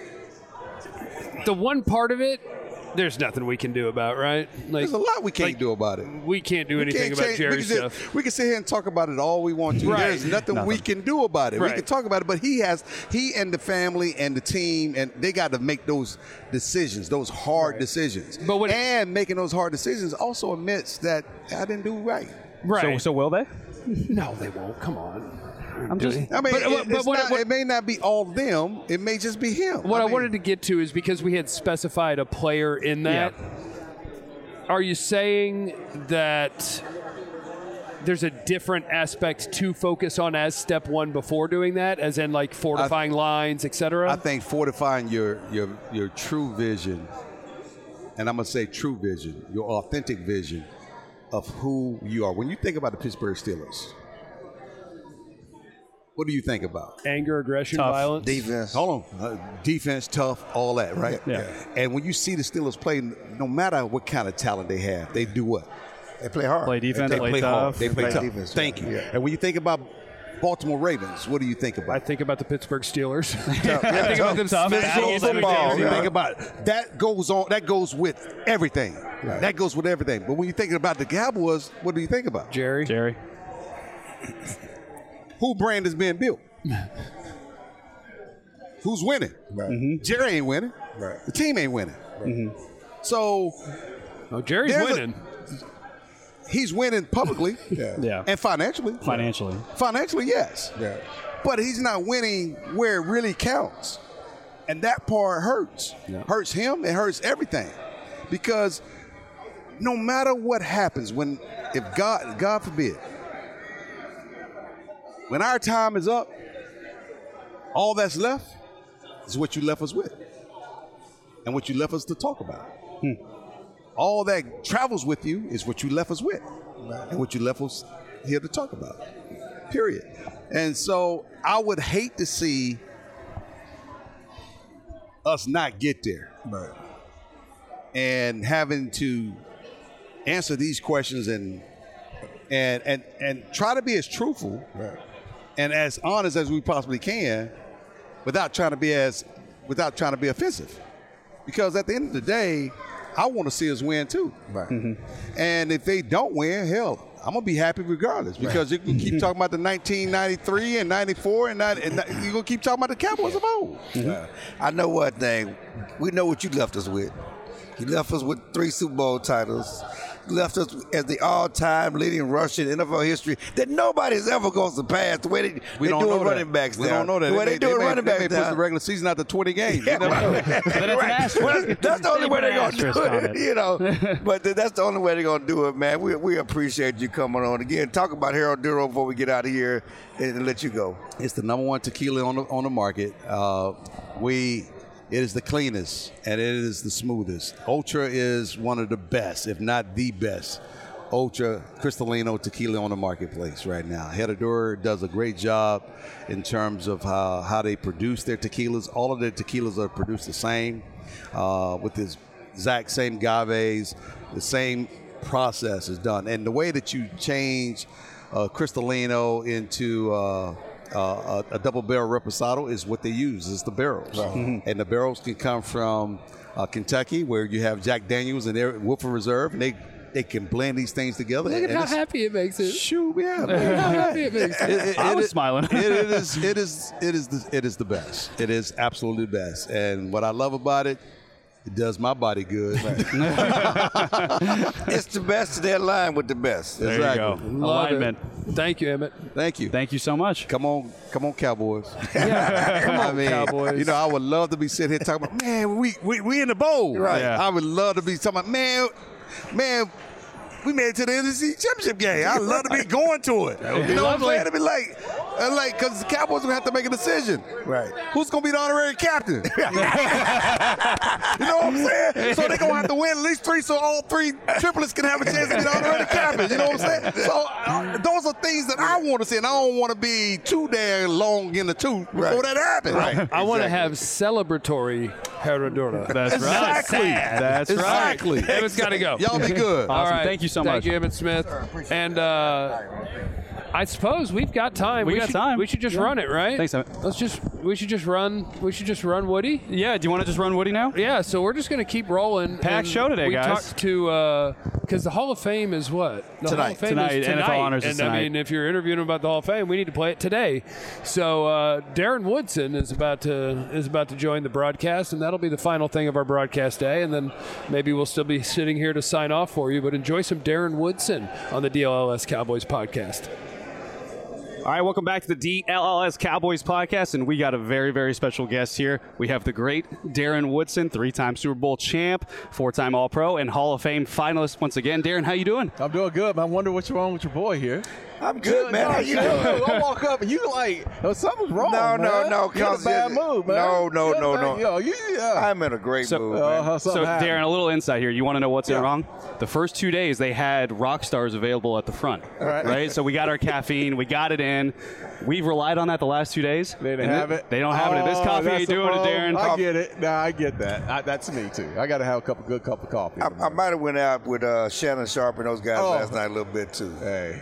S2: the one part of it, there's nothing we can do about, right? Like,
S9: there's a lot we can't
S2: like,
S9: do about it.
S2: We can't do we anything can't about change, Jerry's
S9: we
S2: stuff.
S9: Sit, we can sit here and talk about it all we want to. Right. There's nothing, nothing we can do about it. Right. We can talk about it, but he has, he and the family and the team, and they got to make those decisions, those hard right. decisions. But when, and making those hard decisions also admits that I didn't do right.
S3: Right. So, so will they?
S2: No, they won't. Come on.
S3: I'm just.
S9: I mean,
S2: But-
S9: it,
S2: but
S9: it's
S2: what-
S9: not-
S2: what-
S9: it may not be all them. It may just be him.
S2: What I,
S9: mean,
S2: wanted to get to is because we had specified a player in that. Are you saying that there's a different aspect to focus on as step one before doing that, as in like fortifying lines, et cetera?
S9: I think fortifying your your your true vision, and I'm gonna say true vision, your authentic vision of who you are. When you think about the Pittsburgh Steelers, what do you think about?
S2: Anger, aggression,
S3: Tough.
S2: violence.
S1: Defense.
S9: Hold on, uh, defense, tough, all that, right?
S3: Yeah.
S9: And when you see the Steelers play, no matter what kind of talent they have, they do what?
S1: They play hard.
S3: Play defense,
S9: They
S3: play,
S9: play
S3: tough.
S9: hard. They play
S1: Play
S9: tough.
S1: defense,
S9: Thank
S1: yeah.
S9: you.
S1: Yeah.
S9: And when you think about Baltimore Ravens, what do you think about?
S2: I think about the Pittsburgh Steelers.
S1: Yeah,
S2: I think about them
S3: tough.
S2: smashing
S3: Physical
S2: each other
S1: football,
S2: down.
S9: You
S1: yeah.
S9: think about it. That goes on. That goes with everything. That goes with everything. But when you think about the Cowboys, what do you think about?
S2: Jerry.
S3: Jerry.
S9: Who brand is being built? Who's winning?
S1: Right.
S9: Jerry ain't winning.
S1: Right.
S9: The team ain't winning. So
S2: Oh, Jerry's
S9: There's a-
S2: winning.
S9: he's winning publicly
S1: Yeah.
S3: Yeah.
S9: and financially.
S3: Financially.
S9: Financially, yes.
S1: Yeah.
S9: But he's not winning where it really counts. And that part hurts. Hurts him, it hurts everything. Because no matter what happens, when if God God forbid, when our time is up, all that's left is what you left us with. And what you left us to talk about. All that travels with you is what you left us with. And what you left us here to talk about. Period. And so I would hate to see us not get there.
S1: Right.
S9: And having to answer these questions and and and and try to be as truthful
S1: Right.
S9: and as honest as we possibly can without trying to be as without trying to be offensive. Because at the end of the day, I want to see us win too.
S1: Right.
S9: And if they don't win, hell, I'm gonna be happy regardless because you can keep talking about the nineteen ninety-three and ninety-four and, ninety, and you're gonna keep talking about the Cowboys of old.
S1: Uh, I know one thing. We know what you left us with. You left us with three Super Bowl titles. You left us as the all-time leading rusher in N F L history that nobody's ever going to surpass the way they,
S9: We
S1: they
S9: don't
S1: do
S9: know
S1: running
S9: that.
S1: backs
S9: We
S1: down.
S9: don't know that.
S1: The way they,
S9: may,
S1: do
S9: may,
S1: running
S9: they
S1: backs
S9: may push
S1: down.
S9: the regular season out to twenty games.
S1: Yeah,
S9: You never know.
S3: Then it's an asterisk.
S1: Well, that's the only
S3: They
S1: way
S3: put
S1: they're
S3: an
S1: going to do
S3: asterisk on
S1: it,
S3: it.
S1: you know. But th- that's the only way they're going to do it, man. We, we appreciate you coming on. Again, talk about Harold Duro before we get out of here and, and let you go.
S9: It's the number one tequila on the on the market. Uh, we it is the cleanest and it is the smoothest. Ultra is one of the best, if not the best. Ultra Cristalino tequila on the marketplace right now. Herradura does a great job in terms of how, how they produce their tequilas. All of their tequilas are produced the same uh, with this exact same agaves. The same process is done. And the way that you change uh, Cristalino into uh, uh, a, a double barrel reposado is what they use is the barrels. And the barrels can come from uh, Kentucky where you have Jack Daniels and their Woodford Reserve. And they They can blend these things together.
S2: Look at
S9: and
S2: how
S9: it's-
S2: happy it makes it.
S9: Shoot, yeah,
S2: Look at how happy it makes it.
S9: It- it-
S3: I
S9: it
S3: was
S9: is-
S3: smiling.
S9: it, it is. It is. It is. The, it is the best. It is absolutely the best. And what I love about it, it does my body good.
S1: It's the best. They're aligned with the best.
S3: There
S9: Exactly.
S3: you go.
S2: Love
S3: Alignment.
S2: it. Thank you, Emmett.
S9: Thank you.
S3: Thank you so much.
S9: Come on, come on, Cowboys.
S2: Yeah, come on,
S9: I mean,
S2: Cowboys.
S9: you know, I would love to be sitting here talking about, man, we we, we in the bowl.
S1: Right.
S3: Yeah.
S9: I would love to be talking about, man, man, we made it to the N F C Championship game. I'd love to be going to it. You know what I'm saying? It'd be like, uh, like, because the Cowboys would have to make a decision.
S1: Right.
S9: Who's going to be the honorary captain? You know what I'm saying? So they're going to have to win at least three so all three triplets can have a chance to be the honorary captain. You know what I'm saying? So uh, those are things that I want to see, and I don't want to be too damn long in the tooth before
S1: Right.
S9: that happens.
S1: Right.
S2: I want to have celebratory Herradura.
S3: That's right.
S9: Exactly.
S3: That's right.
S9: Exactly.
S2: Emmett's got to go.
S9: Y'all be good.
S3: Awesome. Thank you so
S2: Thank
S3: much.
S2: you, Emmett Smith. And uh, I suppose we've got time.
S3: We got
S2: should,
S3: time.
S2: We should just
S3: Yeah.
S2: run it, right?
S3: Thanks, Emmett.
S2: Let's just. We should just run. We should just run Woody.
S3: Yeah, do you want to just run Woody now?
S2: Yeah. So we're just going to keep rolling.
S3: Packed
S2: And
S3: show today,
S2: we
S3: guys.
S2: talked to because the Hall of Fame is what the
S1: Tonight.
S2: Hall of Fame
S3: Tonight.
S2: is
S3: N F L
S2: tonight.
S3: honors
S2: and
S3: is
S2: I
S3: tonight.
S2: mean, if you're interviewing about the Hall of Fame, we need to play it today. So uh, Darren Woodson is about to is about to join the broadcast, and that'll be the final thing of our broadcast day. And then maybe we'll still be sitting here to sign off for you. But enjoy some Darren Woodson on the D L L S Cowboys podcast.
S3: All right, welcome back to the D L L S Cowboys podcast, and we got a very, very special guest here. We have the great Darren Woodson, three-time Super Bowl champ, four-time All-Pro, and Hall of Fame finalist once again. Darren, how you doing?
S10: I'm doing good, man. I wonder what's wrong with your boy here.
S1: I'm good, man.
S10: No,
S1: How you
S10: no,
S1: doing?
S10: I walk up and you like, oh, something's wrong,
S1: No,
S10: man.
S1: no, no.
S10: You're in a bad mood, man.
S1: No, no,
S10: You're
S1: no,
S10: bad-
S1: no.
S10: Yo, you, yeah.
S1: I'm in a great
S3: So-
S1: mood, man.
S10: Uh-huh,
S3: So,
S10: something happened.
S3: Darren, a little insight here. You want to know what's
S1: Yeah.
S3: wrong? The first two days, they had rock stars available at the front,
S10: right.
S3: right? So we got our caffeine, we got it in. We've relied on that the last two days.
S10: They didn't
S3: and
S10: have
S3: they-
S10: it.
S3: They don't have it. This
S10: Oh,
S3: coffee
S10: that's
S3: ain't
S10: the
S3: doing it,
S10: problem.
S3: Darren.
S10: I get it. Nah, I get that. I, that's me too. I got to have a couple good cup of coffee.
S1: I, I might have went out with uh, Shannon Sharp and those guys
S10: Oh.
S1: last night a little bit too.
S10: Hey.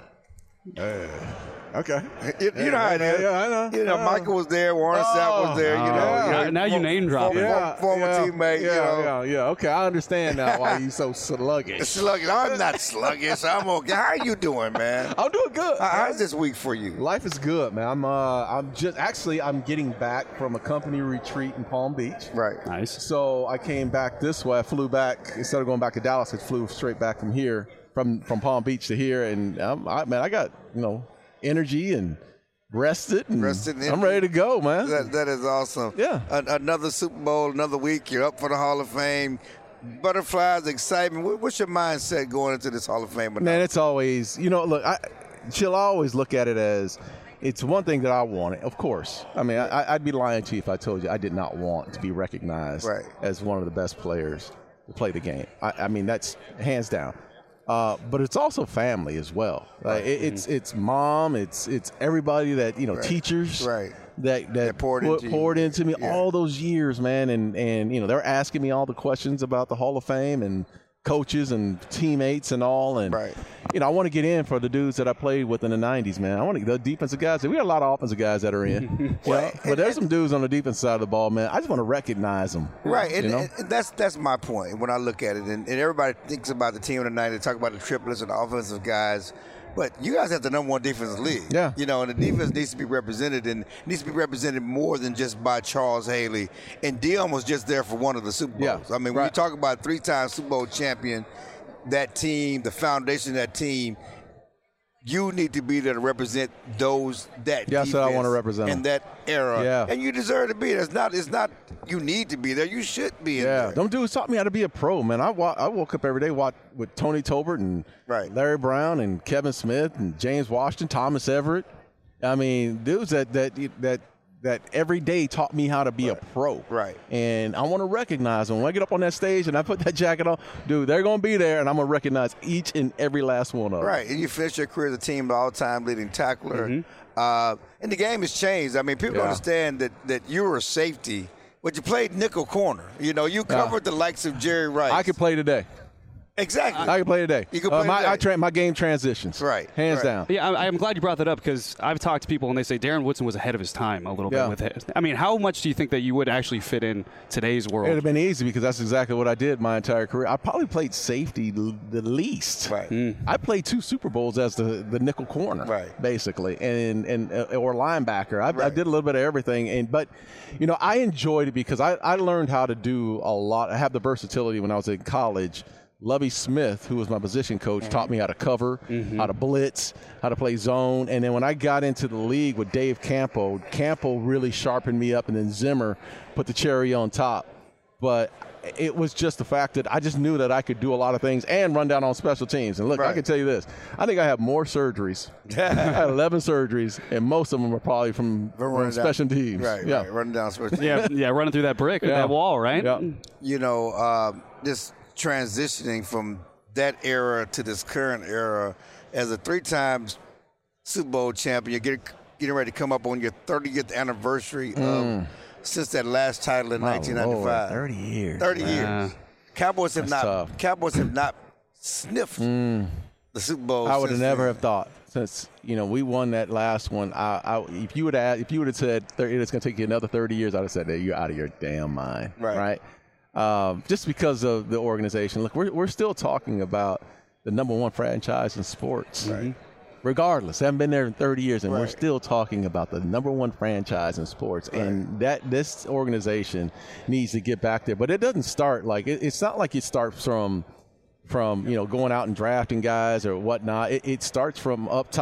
S10: Hey. Okay.
S1: You, you know how it
S10: yeah,
S1: is.
S10: yeah, I know.
S1: You know,
S10: Yeah.
S1: Michael was there, Warren Sapp was there. You know,
S3: Oh,
S1: you know,
S3: now- now you
S1: for-
S3: name dropping.
S1: Former,
S10: Yeah,
S1: former
S10: yeah,
S1: teammate.
S10: Yeah,
S1: you know,
S10: yeah, yeah. Okay, I understand now why you so sluggish.
S1: sluggish. I'm not sluggish. I'm okay. How you doing, man?
S10: I'm doing good.
S1: How- How's this week for you?
S10: Life is good, man. I'm uh, I'm just actually I'm getting back from a company retreat in Palm Beach.
S1: Right.
S3: Nice.
S10: So I came back this way. I flew back instead of going back to Dallas. I flew straight back from here, from from Palm Beach to here, and um, I, man, I got you know energy and rested, and
S1: Rested and
S10: I'm ready to go, man.
S1: That, that is awesome.
S10: Yeah.
S1: An- another Super Bowl, another week. You're up for the Hall of Fame. Butterflies, excitement. What- What's your mindset going into this Hall of Fame?
S10: Man, it's always, you know, look, I, she'll always look at it as it's one thing that I wanted, of course. I mean, I, I'd be lying to you if I told you I did not want to be recognized
S1: Right.
S10: as one of the best players to play the game. I, I mean, that's hands down. Uh, but it's also family as well. Like, it, it's it's mom, it's it's everybody that you know,
S1: Right.
S10: teachers,
S1: Right.
S10: that that
S1: That poured
S10: put-
S1: into you.
S10: poured into me
S1: Yeah.
S10: all those years, man. And and you know, they're asking me all the questions about the Hall of Fame and coaches and teammates and all. And
S1: Right.
S10: you know, I want to get in for the dudes that I played with in the nineties, man. I want to the defensive guys. We got a lot of offensive guys that are in, you know, but there's some dudes on the defense side of the ball, man. I just want to recognize them,
S1: Right,
S10: You
S1: and,
S10: know?
S1: and that's that's my point when I look at it. And, and everybody thinks about the team tonight. They talk about the triplets and the offensive guys, but you guys have the number one defense in the league.
S10: Yeah.
S1: you know, and the defense needs to be represented, and needs to be represented more than just by Charles Haley. And Dion was just there for one of the Super Bowls.
S10: Yeah,
S1: I mean, when
S10: right.
S1: you talk about three-time Super Bowl champion, that team, the foundation of that team. You need to be there to represent those that
S10: Yeah, that's what I
S1: defense
S10: wanna represent
S1: in
S10: them.
S1: that era.
S10: Yeah.
S1: And you deserve to be there. It's not it's not you need to be there. You should be in
S10: Yeah,
S1: there.
S10: them dudes taught me how to be a pro, man. I, wa- I woke up every day watch, with Tony Tolbert and
S1: Right.
S10: Larry Brown and Kevin Smith and James Washington, Thomas Everett. I mean, dudes that that that that every day taught me how to be a pro.
S1: Right.
S10: And I want to recognize them. When I get up on that stage and I put that jacket on, dude, they're going to be there, and I'm going to recognize each and every last one of them.
S1: Right, and you finish your career as a team all-time leading tackler.
S10: Mm-hmm.
S1: Uh, and the game has changed. I mean, people
S10: Yeah.
S1: understand that, that you were a safety, but you played nickel corner. You know, you covered the likes of Jerry Rice.
S10: I could play today.
S1: Exactly.
S10: I can play today.
S1: You can
S10: Uh,
S1: play
S10: my,
S1: today.
S10: I tra- my game transitions.
S1: Right,
S10: Hands
S1: right.
S10: down.
S3: Yeah, I- I'm glad you brought that up because I've talked to people and they say Darren Woodson was ahead of his time a little
S10: Yeah.
S3: bit with it. I mean, how much do you think that you would actually fit in today's
S10: It
S3: world?
S10: would have been easy because that's exactly what I did my entire career. I probably played safety l- the least.
S1: Right.
S10: I played two Super Bowls as the, the nickel corner,
S1: Right.
S10: basically, and and uh, or linebacker. I, I
S1: Right.
S10: did a little bit of everything, and but you know I enjoyed it because I, I learned how to do a lot. I have the versatility when I was in college. Lovie Smith, who was my position coach, taught me how to cover, how to blitz, how to play zone. And then when I got into the league with Dave Campo, Campo really sharpened me up, and then Zimmer put the cherry on top. But it was just the fact that I just knew that I could do a lot of things and run down on special teams. And look, I
S1: Right.
S10: can tell you this. I think I have more surgeries. I had eleven surgeries, and most of them are probably from,
S1: We're
S10: from
S1: running down-
S10: special teams.
S1: Right,
S10: yeah.
S1: right, running down special
S3: yeah, yeah, running through that brick, or
S10: Yeah.
S3: that wall, right?
S10: Yeah.
S1: you know, uh, just transitioning from that era to this current era as a three-time Super Bowl champion, you're getting, getting ready to come up on your thirtieth anniversary of since that last title in
S10: My
S1: nineteen ninety-five.
S10: Lord, thirty years.
S1: thirty
S3: Yeah.
S1: years. Cowboys have
S10: That's
S1: not.
S10: tough.
S1: Cowboys have not sniffed the Super Bowl.
S10: I would have
S1: since
S10: never
S1: then.
S10: have thought since you know we won that last one. I, I if you would have if you would have said thirty, it's going to take you another thirty years, I'd have said, hey, you're out of your damn mind,
S1: Right.
S10: right? Um, just because of the organization. Look, we're we're still talking about the number one franchise in sports.
S1: Right.
S10: Regardless, I haven't been there in thirty years, and we're
S1: Right.
S10: still talking about the number one franchise in sports. And that this organization needs to get back there. But it doesn't start like it, it's not like it starts from from you know going out and drafting guys or whatnot. It, it starts from up top.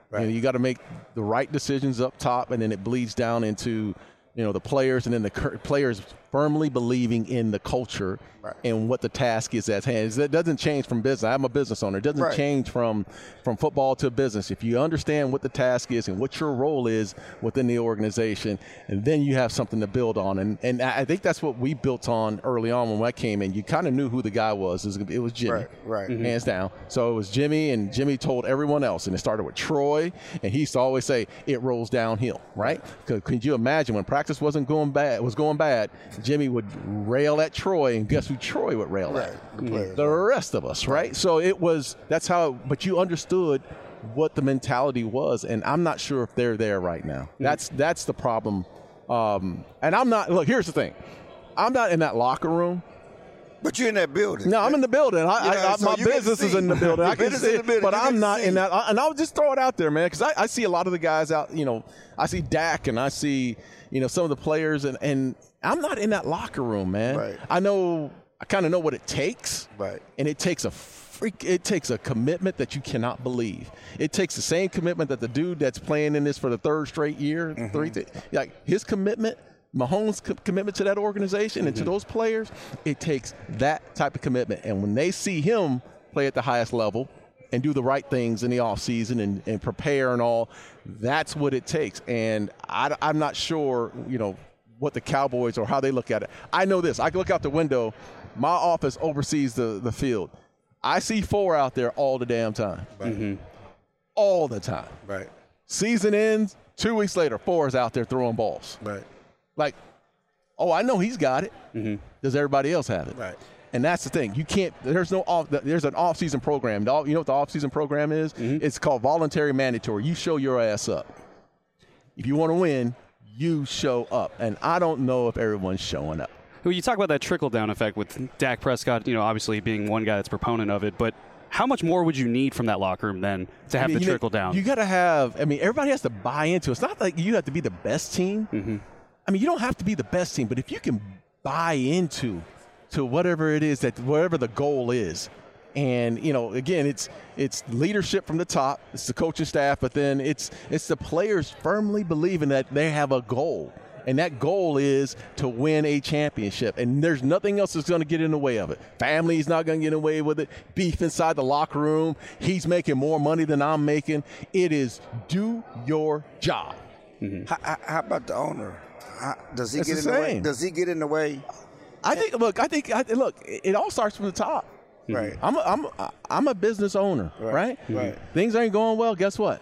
S10: Right. You know, you got to make the right decisions up top, and then it bleeds down into, you know, the players, and then the cur- players firmly believing in the culture right. and what the task is at hand. It doesn't change from business. I'm a business owner. It doesn't right. change from, from football to business. If you understand what the task is and what your role is within the organization, and then you have something to build on. And and I think that's what we built on early on when I came in. You kind of knew who the guy was. It was, it was Jimmy,
S1: right, right. Mm-hmm.
S10: hands down. So it was Jimmy, and Jimmy told everyone else. And it started with Troy, and he used to always say, it rolls downhill, right? Because could you imagine when practice wasn't going bad, was going bad, Jimmy would rail at Troy, and guess who Troy would rail
S1: right.
S10: at?
S1: The, players,
S10: the
S1: right.
S10: rest of us, right? So it was, that's how, but you understood what the mentality was, and I'm not sure if they're there right now. Mm-hmm. That's that's the problem. Um, and I'm not, look, here's the thing. I'm not in that locker room.
S1: But you're in that building.
S10: No, I'm in the building. I,
S1: you know,
S10: I, I,
S1: so
S10: my business is in the building. I can see it, building. But you I'm not see. in that. And I'll just throw it out there, man, because I, I see a lot of the guys out, you know, I see Dak and I see, you know, some of the players, and, and I'm not in that locker room, man.
S1: Right.
S10: I know, I kind of know what it takes.
S1: Right.
S10: And it takes a freak, it takes a commitment that you cannot believe. It takes the same commitment that the dude that's playing in this for the third straight year, mm-hmm. three, th- like his commitment, Mahomes' co- commitment to that organization mm-hmm. and to those players, it takes that type of commitment. And when they see him play at the highest level and do the right things in the offseason and, and prepare and all, that's what it takes. And I, I'm not sure, you know, what the Cowboys or how they look at it. I know this. I can look out the window. My office oversees the, the field. I see four out there all the damn time.
S1: Right. Mm-hmm.
S10: All the time.
S1: Right.
S10: Season ends, two weeks later, four is out there throwing balls.
S1: Right.
S10: Like, oh, I know he's got it.
S3: Mm-hmm.
S10: Does everybody else have it?
S1: Right.
S10: And that's the thing. You can't. There's no off. There's an off-season program. You know what the off-season program is? Mm-hmm. It's called voluntary mandatory. You show your ass up. If you want to win, you show up. And I don't know if everyone's showing up.
S3: Well, you talk about that trickle-down effect with Dak Prescott. You know, obviously being one guy that's proponent of it, but how much more would you need from that locker room then to have
S10: I mean,
S3: the
S10: you
S3: trickle
S10: know,
S3: down?
S10: You got to have. I mean, everybody has to buy into it. It's not like you have to be the best team.
S3: Mm-hmm.
S10: I mean, you don't have to be the best team, but if you can buy into to whatever it is that whatever the goal is, and you know, again, it's it's leadership from the top, it's the coaching staff, but then it's it's the players firmly believing that they have a goal, and that goal is to win a championship, and there's nothing else that's going to get in the way of it. Family's not going to get in the way with it. Beef inside the locker room. He's making more money than I'm making. It is do your job.
S1: Mm-hmm. How, how about the owner? How, does he
S10: It's
S1: get
S10: the
S1: in the way?
S10: same.
S1: Does he get in the way?
S10: I think. Look, I think. I, look, it all starts from the top.
S1: Right.
S10: I'm a, I'm a, I'm a business owner, right?
S1: Right. Right.
S10: Things ain't going well. Guess what?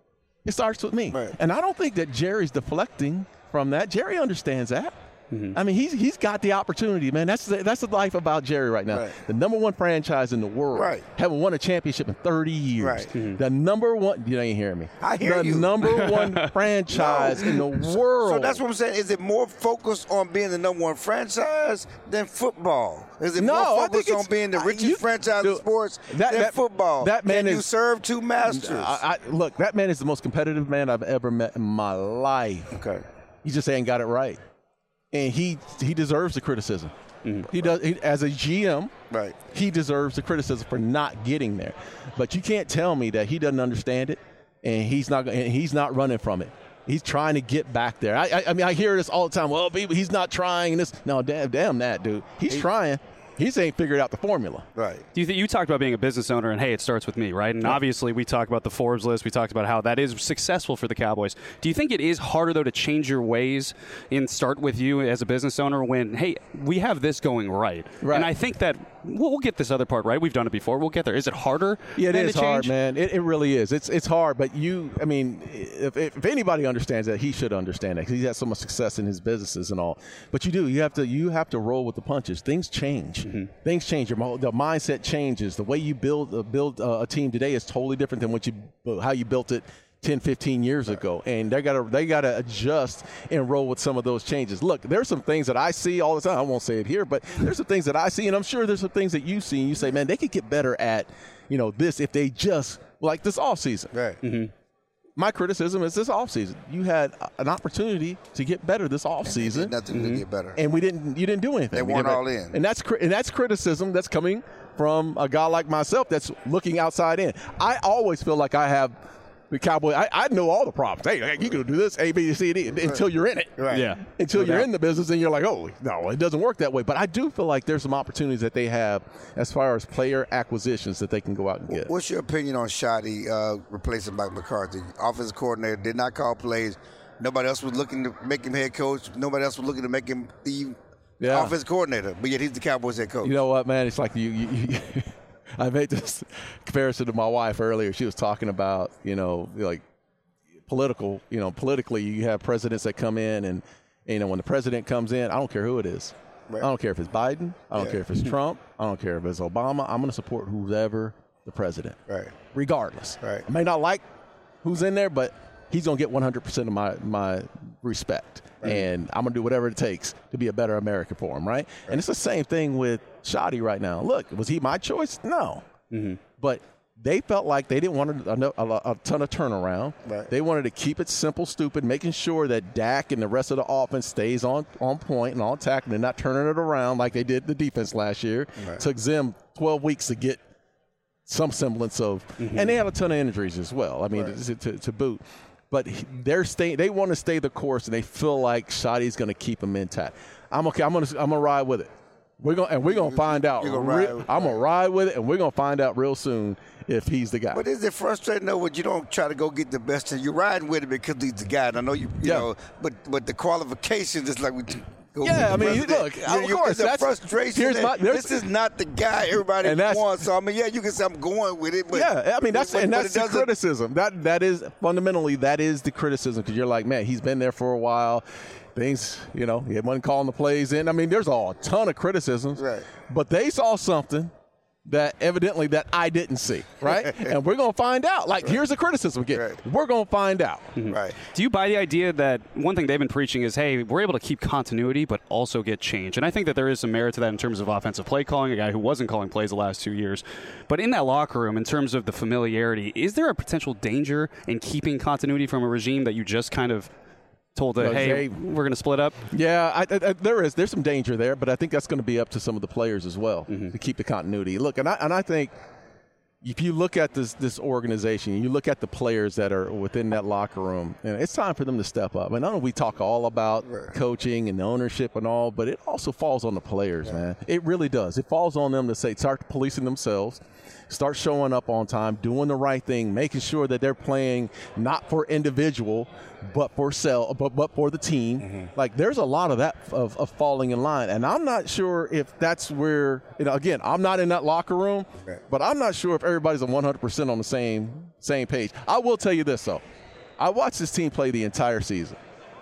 S10: It starts with me.
S1: Right.
S10: And I don't think that Jerry's deflecting from that. Jerry understands that.
S3: Mm-hmm.
S10: I mean, he's he's got the opportunity, man. That's the, that's the life about Jerry right now.
S1: Right.
S10: The number one franchise in the world,
S1: Right.
S10: haven't won a championship in thirty years.
S1: Right.
S3: Mm-hmm.
S10: The number one, you ain't hearing me.
S1: I hear
S10: the
S1: you.
S10: The number one franchise
S1: No.
S10: in the world.
S1: So that's what I'm saying. Is it more focused on being the number one franchise than football? Is it
S10: No, I
S1: more
S10: think
S1: focused on
S10: it's-
S1: being the
S10: I-
S1: richest
S10: you-
S1: franchise
S10: dude,
S1: in sports
S10: that-
S1: than
S10: that-
S1: football?
S10: that man
S1: Can you
S10: is-
S1: serve two masters?
S10: I, I, look, that man is the most competitive man I've ever met in my life.
S1: okay.
S10: He just ain't got it right, and he he deserves the criticism.
S3: Mm-hmm.
S10: He does he, as a G M.
S1: Right.
S10: He deserves the criticism for not getting there. But you can't tell me that he doesn't understand it, and he's not and he's not running from it. He's trying to get back there. I, I, I mean, I hear this all the time. Well, he's not trying. And this, no, damn, damn that, dude. He's he, trying. He just ain't figured out the formula.
S1: Right.
S3: Do you think you talked about being a business owner and hey, it starts with me, right? And obviously, we talked about the Forbes list. We talked about how that is successful for the Cowboys. Do you think it is harder though to change your ways and start with you as a business owner when hey, we have this going right?
S10: Right.
S3: And I think that we'll, we'll get this other part right. We've done it before. We'll get there. Is it harder?
S10: Yeah, it
S3: than
S10: is
S3: to
S10: hard,
S3: change?
S10: man. It, it really is. It's it's hard, but you, I mean, if, if anybody understands that, he should understand that because he's had so much success in his businesses and all. But you do. You have to. You have to roll with the punches. Things change. Mm-hmm. Things change. Your the mindset changes. The way you build uh, build uh, a team today is totally different than what you how you built it ten, fifteen years ago. And they gotta they gotta adjust and roll with some of those changes. Look, there's some things that I see all the time. I won't say it here, but there's some things that I see, and I'm sure there's some things that you see, and you say, man, they could get better at, you know, this if they just like this offseason.
S1: Right.
S3: Mm-hmm.
S10: My criticism is this offseason. You had an opportunity to get better this offseason.
S1: Nothing
S10: mm-hmm.
S1: to get better.
S10: And we didn't. You didn't do anything.
S1: They weren't all in.
S10: And that's and that's criticism that's coming from a guy like myself that's looking outside in. I always feel like I have the Cowboy, I, I know all the problems. Hey, you can do this, A, B, C, D, until you're in it.
S1: Right.
S3: Yeah.
S10: Until
S3: No
S10: you're
S3: doubt.
S10: in the business and you're like, oh, no, it doesn't work that way. But I do feel like there's some opportunities that they have as far as player acquisitions that they can go out and get.
S1: What's your opinion on Shoddy uh, replacing Mike McCarthy? Offensive coordinator, did not call plays. Nobody else was looking to make him head coach. Nobody else was looking to make him the
S10: Yeah.
S1: offensive coordinator. But yet he's the Cowboys head coach.
S10: You know what, man? It's like you. you, you I made this comparison to my wife earlier. She was talking about, you know, like political, you know, politically, you have presidents that come in, and, you know, when the president comes in, I don't care who it is.
S1: Right.
S10: I don't care if it's Biden. I don't
S1: Yeah.
S10: care if it's Trump. I don't care if it's Obama. I'm going to support whoever the president,
S1: Right.
S10: regardless.
S1: Right.
S10: I may not like who's in there, but he's going to get one hundred percent of my, my respect. Right. And I'm going to do whatever it takes to be a better American for him, right? right? And it's the same thing with Shoddy right now. Look, was he my choice? No. Mm-hmm. But they felt like they didn't want a, a, a ton of turnaround. Right. They wanted to keep it simple, stupid, making sure that Dak and the rest of the offense stays on, on point and on tack, and they're not turning it around like they did the defense last year. Right. Took them twelve weeks to get some semblance of mm-hmm. – and they had a ton of injuries as well, I mean, right. to, to, to boot. But they're staying. They want to stay the course, and they feel like Shoddy's going to keep them intact. I'm okay. I'm going to. I'm going to ride with it. We're going and we're going to find out.
S1: Gonna
S10: re-
S1: ride,
S10: I'm going to ride with it, and we're going to find out real soon if he's the guy.
S1: But is it frustrating though when you don't try to go get the best? You're riding with it because he's the guy. And I know you. You
S10: yeah.
S1: know, but but the qualifications is like we. Go
S10: yeah, I mean,
S1: president.
S10: look,
S1: you,
S10: of
S1: you,
S10: course,
S1: it's a
S10: that's
S1: frustration.
S10: Here's my,
S1: this is not the guy everybody wants. So I mean, yeah, you can say I'm going with it, but
S10: yeah, I mean that's
S1: but,
S10: and
S1: but
S10: that's the criticism. That that is fundamentally that is the criticism because you're like, man, he's been there for a while. Things, you know, he wasn't calling the plays in. I mean, there's a ton of criticisms,
S1: right?
S10: But they saw something that evidently that I didn't see, right? And we're going to find out. Like, right. Here's the criticism again. Right. We're going to find out.
S3: Mm-hmm.
S1: Right.
S3: Do you buy the idea that one thing they've been preaching is, hey, we're able to keep continuity but also get change? And I think that there is some merit to that in terms of offensive play calling, a guy who wasn't calling plays the last two years. But in that locker room, in terms of the familiarity, is there a potential danger in keeping continuity from a regime that you just kind of told that, hey, hey, we're going to split up?
S10: Yeah, I, I, there is. There's some danger there, but I think that's going to be up to some of the players as well mm-hmm. to keep the continuity. Look, and I, and I think if you look at this this organization, you look at the players that are within that locker room, and it's time for them to step up. And I know we talk all about right. coaching and the ownership and all, but it also falls on the players, yeah. man. It really does. It falls on them to say, start policing themselves, start showing up on time, doing the right thing, making sure that they're playing not for individual, but for sell, but but for the team. Mm-hmm. Like there's a lot of that of, of falling in line, and I'm not sure if that's where. You know, again, I'm not in that locker room, okay. but I'm not sure if everybody's on one hundred percent on the same same page. I will tell you this though, I watched this team play the entire season,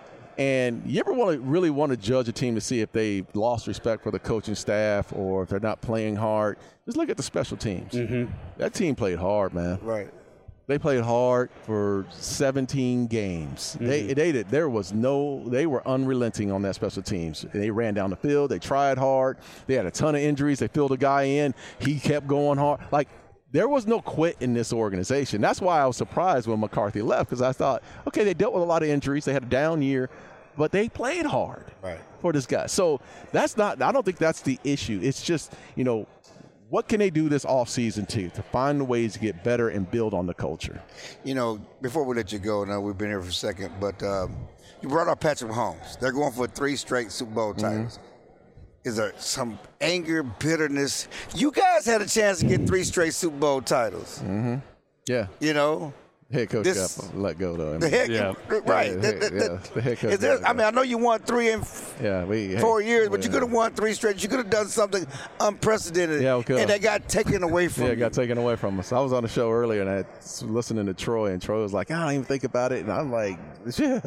S10: and you ever want to really want to judge a team to see if they lost respect for the coaching staff or if they're not playing hard? Just look at the special teams. Mm-hmm. That team played hard, man.
S1: Right.
S10: They played hard for seventeen games. Mm-hmm. They they did. There was no. They were unrelenting on that special teams. They ran down the field. They tried hard. They had a ton of injuries. They filled a guy in. He kept going hard. Like there was no quit in this organization. That's why I was surprised when McCarthy left because I thought, okay, they dealt with a lot of injuries. They had a down year, but they played hard
S1: right.
S10: for this guy. So that's not. I don't think that's the issue. It's just you know. What can they do this offseason to to find the ways to get better and build on the culture?
S1: You know, before we let you go, now we've been here for a second, but um, you brought up Patrick Mahomes. They're going for three straight Super Bowl titles. Mm-hmm. Is there some anger, bitterness? You guys had a chance to get three straight Super Bowl titles.
S10: Mm-hmm. Yeah.
S1: You know?
S10: Head coach this, got let go though. I mean,
S1: the head,
S10: yeah.
S1: right.
S10: Yeah,
S1: the, the,
S10: yeah, the head coach.
S1: Is there, I mean, I know you won three in
S10: yeah, we,
S1: four
S10: hey,
S1: years, but
S10: yeah.
S1: you could have won three straight. You could have done something unprecedented,
S10: yeah, okay.
S1: and they got taken away from.
S10: Yeah,
S1: you.
S10: it got taken away from us. I was on the show earlier, and I was listening to Troy, and Troy was like, "I don't even think about it," and I'm like, "Yeah."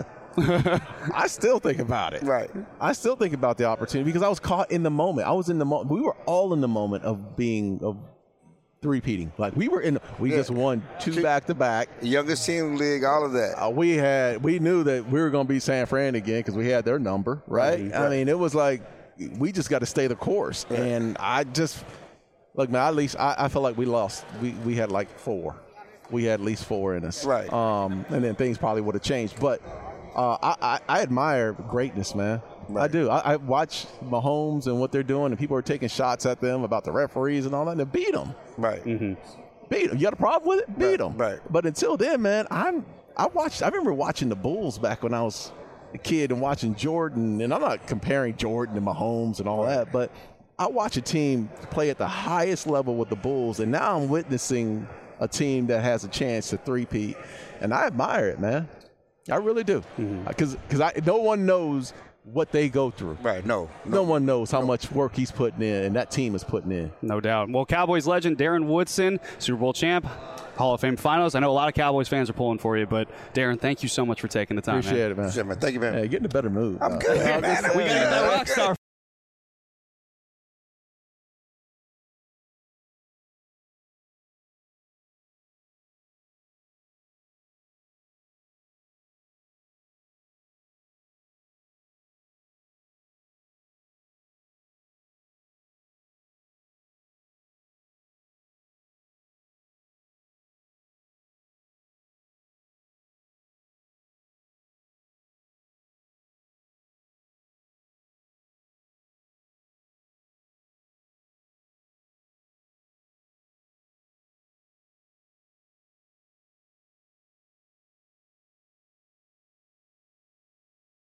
S10: I still think about it.
S1: Right.
S10: I still think about the opportunity because I was caught in the moment. I was in the moment. We were all in the moment of being of. Three-peating. Like we were in, we yeah. just won two back-to-back.
S1: Youngest team in the league, all of that.
S10: Uh, we had, we knew that we were going to be San Fran again because we had their number, right?
S1: Mm-hmm.
S10: I
S1: right.
S10: mean, it was like we just got to stay the course. Right. And I just, look, man, at least I, I feel like we lost. We we had like four. We had at least four in us.
S1: Right.
S10: Um, and then things probably would have changed. But uh, I, I, I admire greatness, man. Right. I do. I, I watch Mahomes and what they're doing, and people are taking shots at them about the referees and all that, and they beat them.
S1: Right.
S10: Mm-hmm. beat them. You got a problem with it? Beat them.
S1: Right.
S10: But until then, man, I'm I watched. I remember watching the Bulls back when I was a kid and watching Jordan. And I'm not comparing Jordan to Mahomes and all that, but I watch a team play at the highest level with the Bulls, and now I'm witnessing a team that has a chance to three-peat, and I admire it, man. I really do, because mm-hmm. because no one knows what they go through.
S1: Right, no.
S10: No, no one knows how no. much work he's putting in and that team is putting in.
S3: No doubt. Well, Cowboys legend Darren Woodson, Super Bowl champ, Hall of Fame finals. I know a lot of Cowboys fans are pulling for you, but Darren, thank you so much for taking the time.
S10: Appreciate
S3: man.
S10: it, man.
S1: Appreciate it, man. Thank you, man.
S10: Hey, get in a better mood.
S1: I'm good, man.
S3: We got that rock star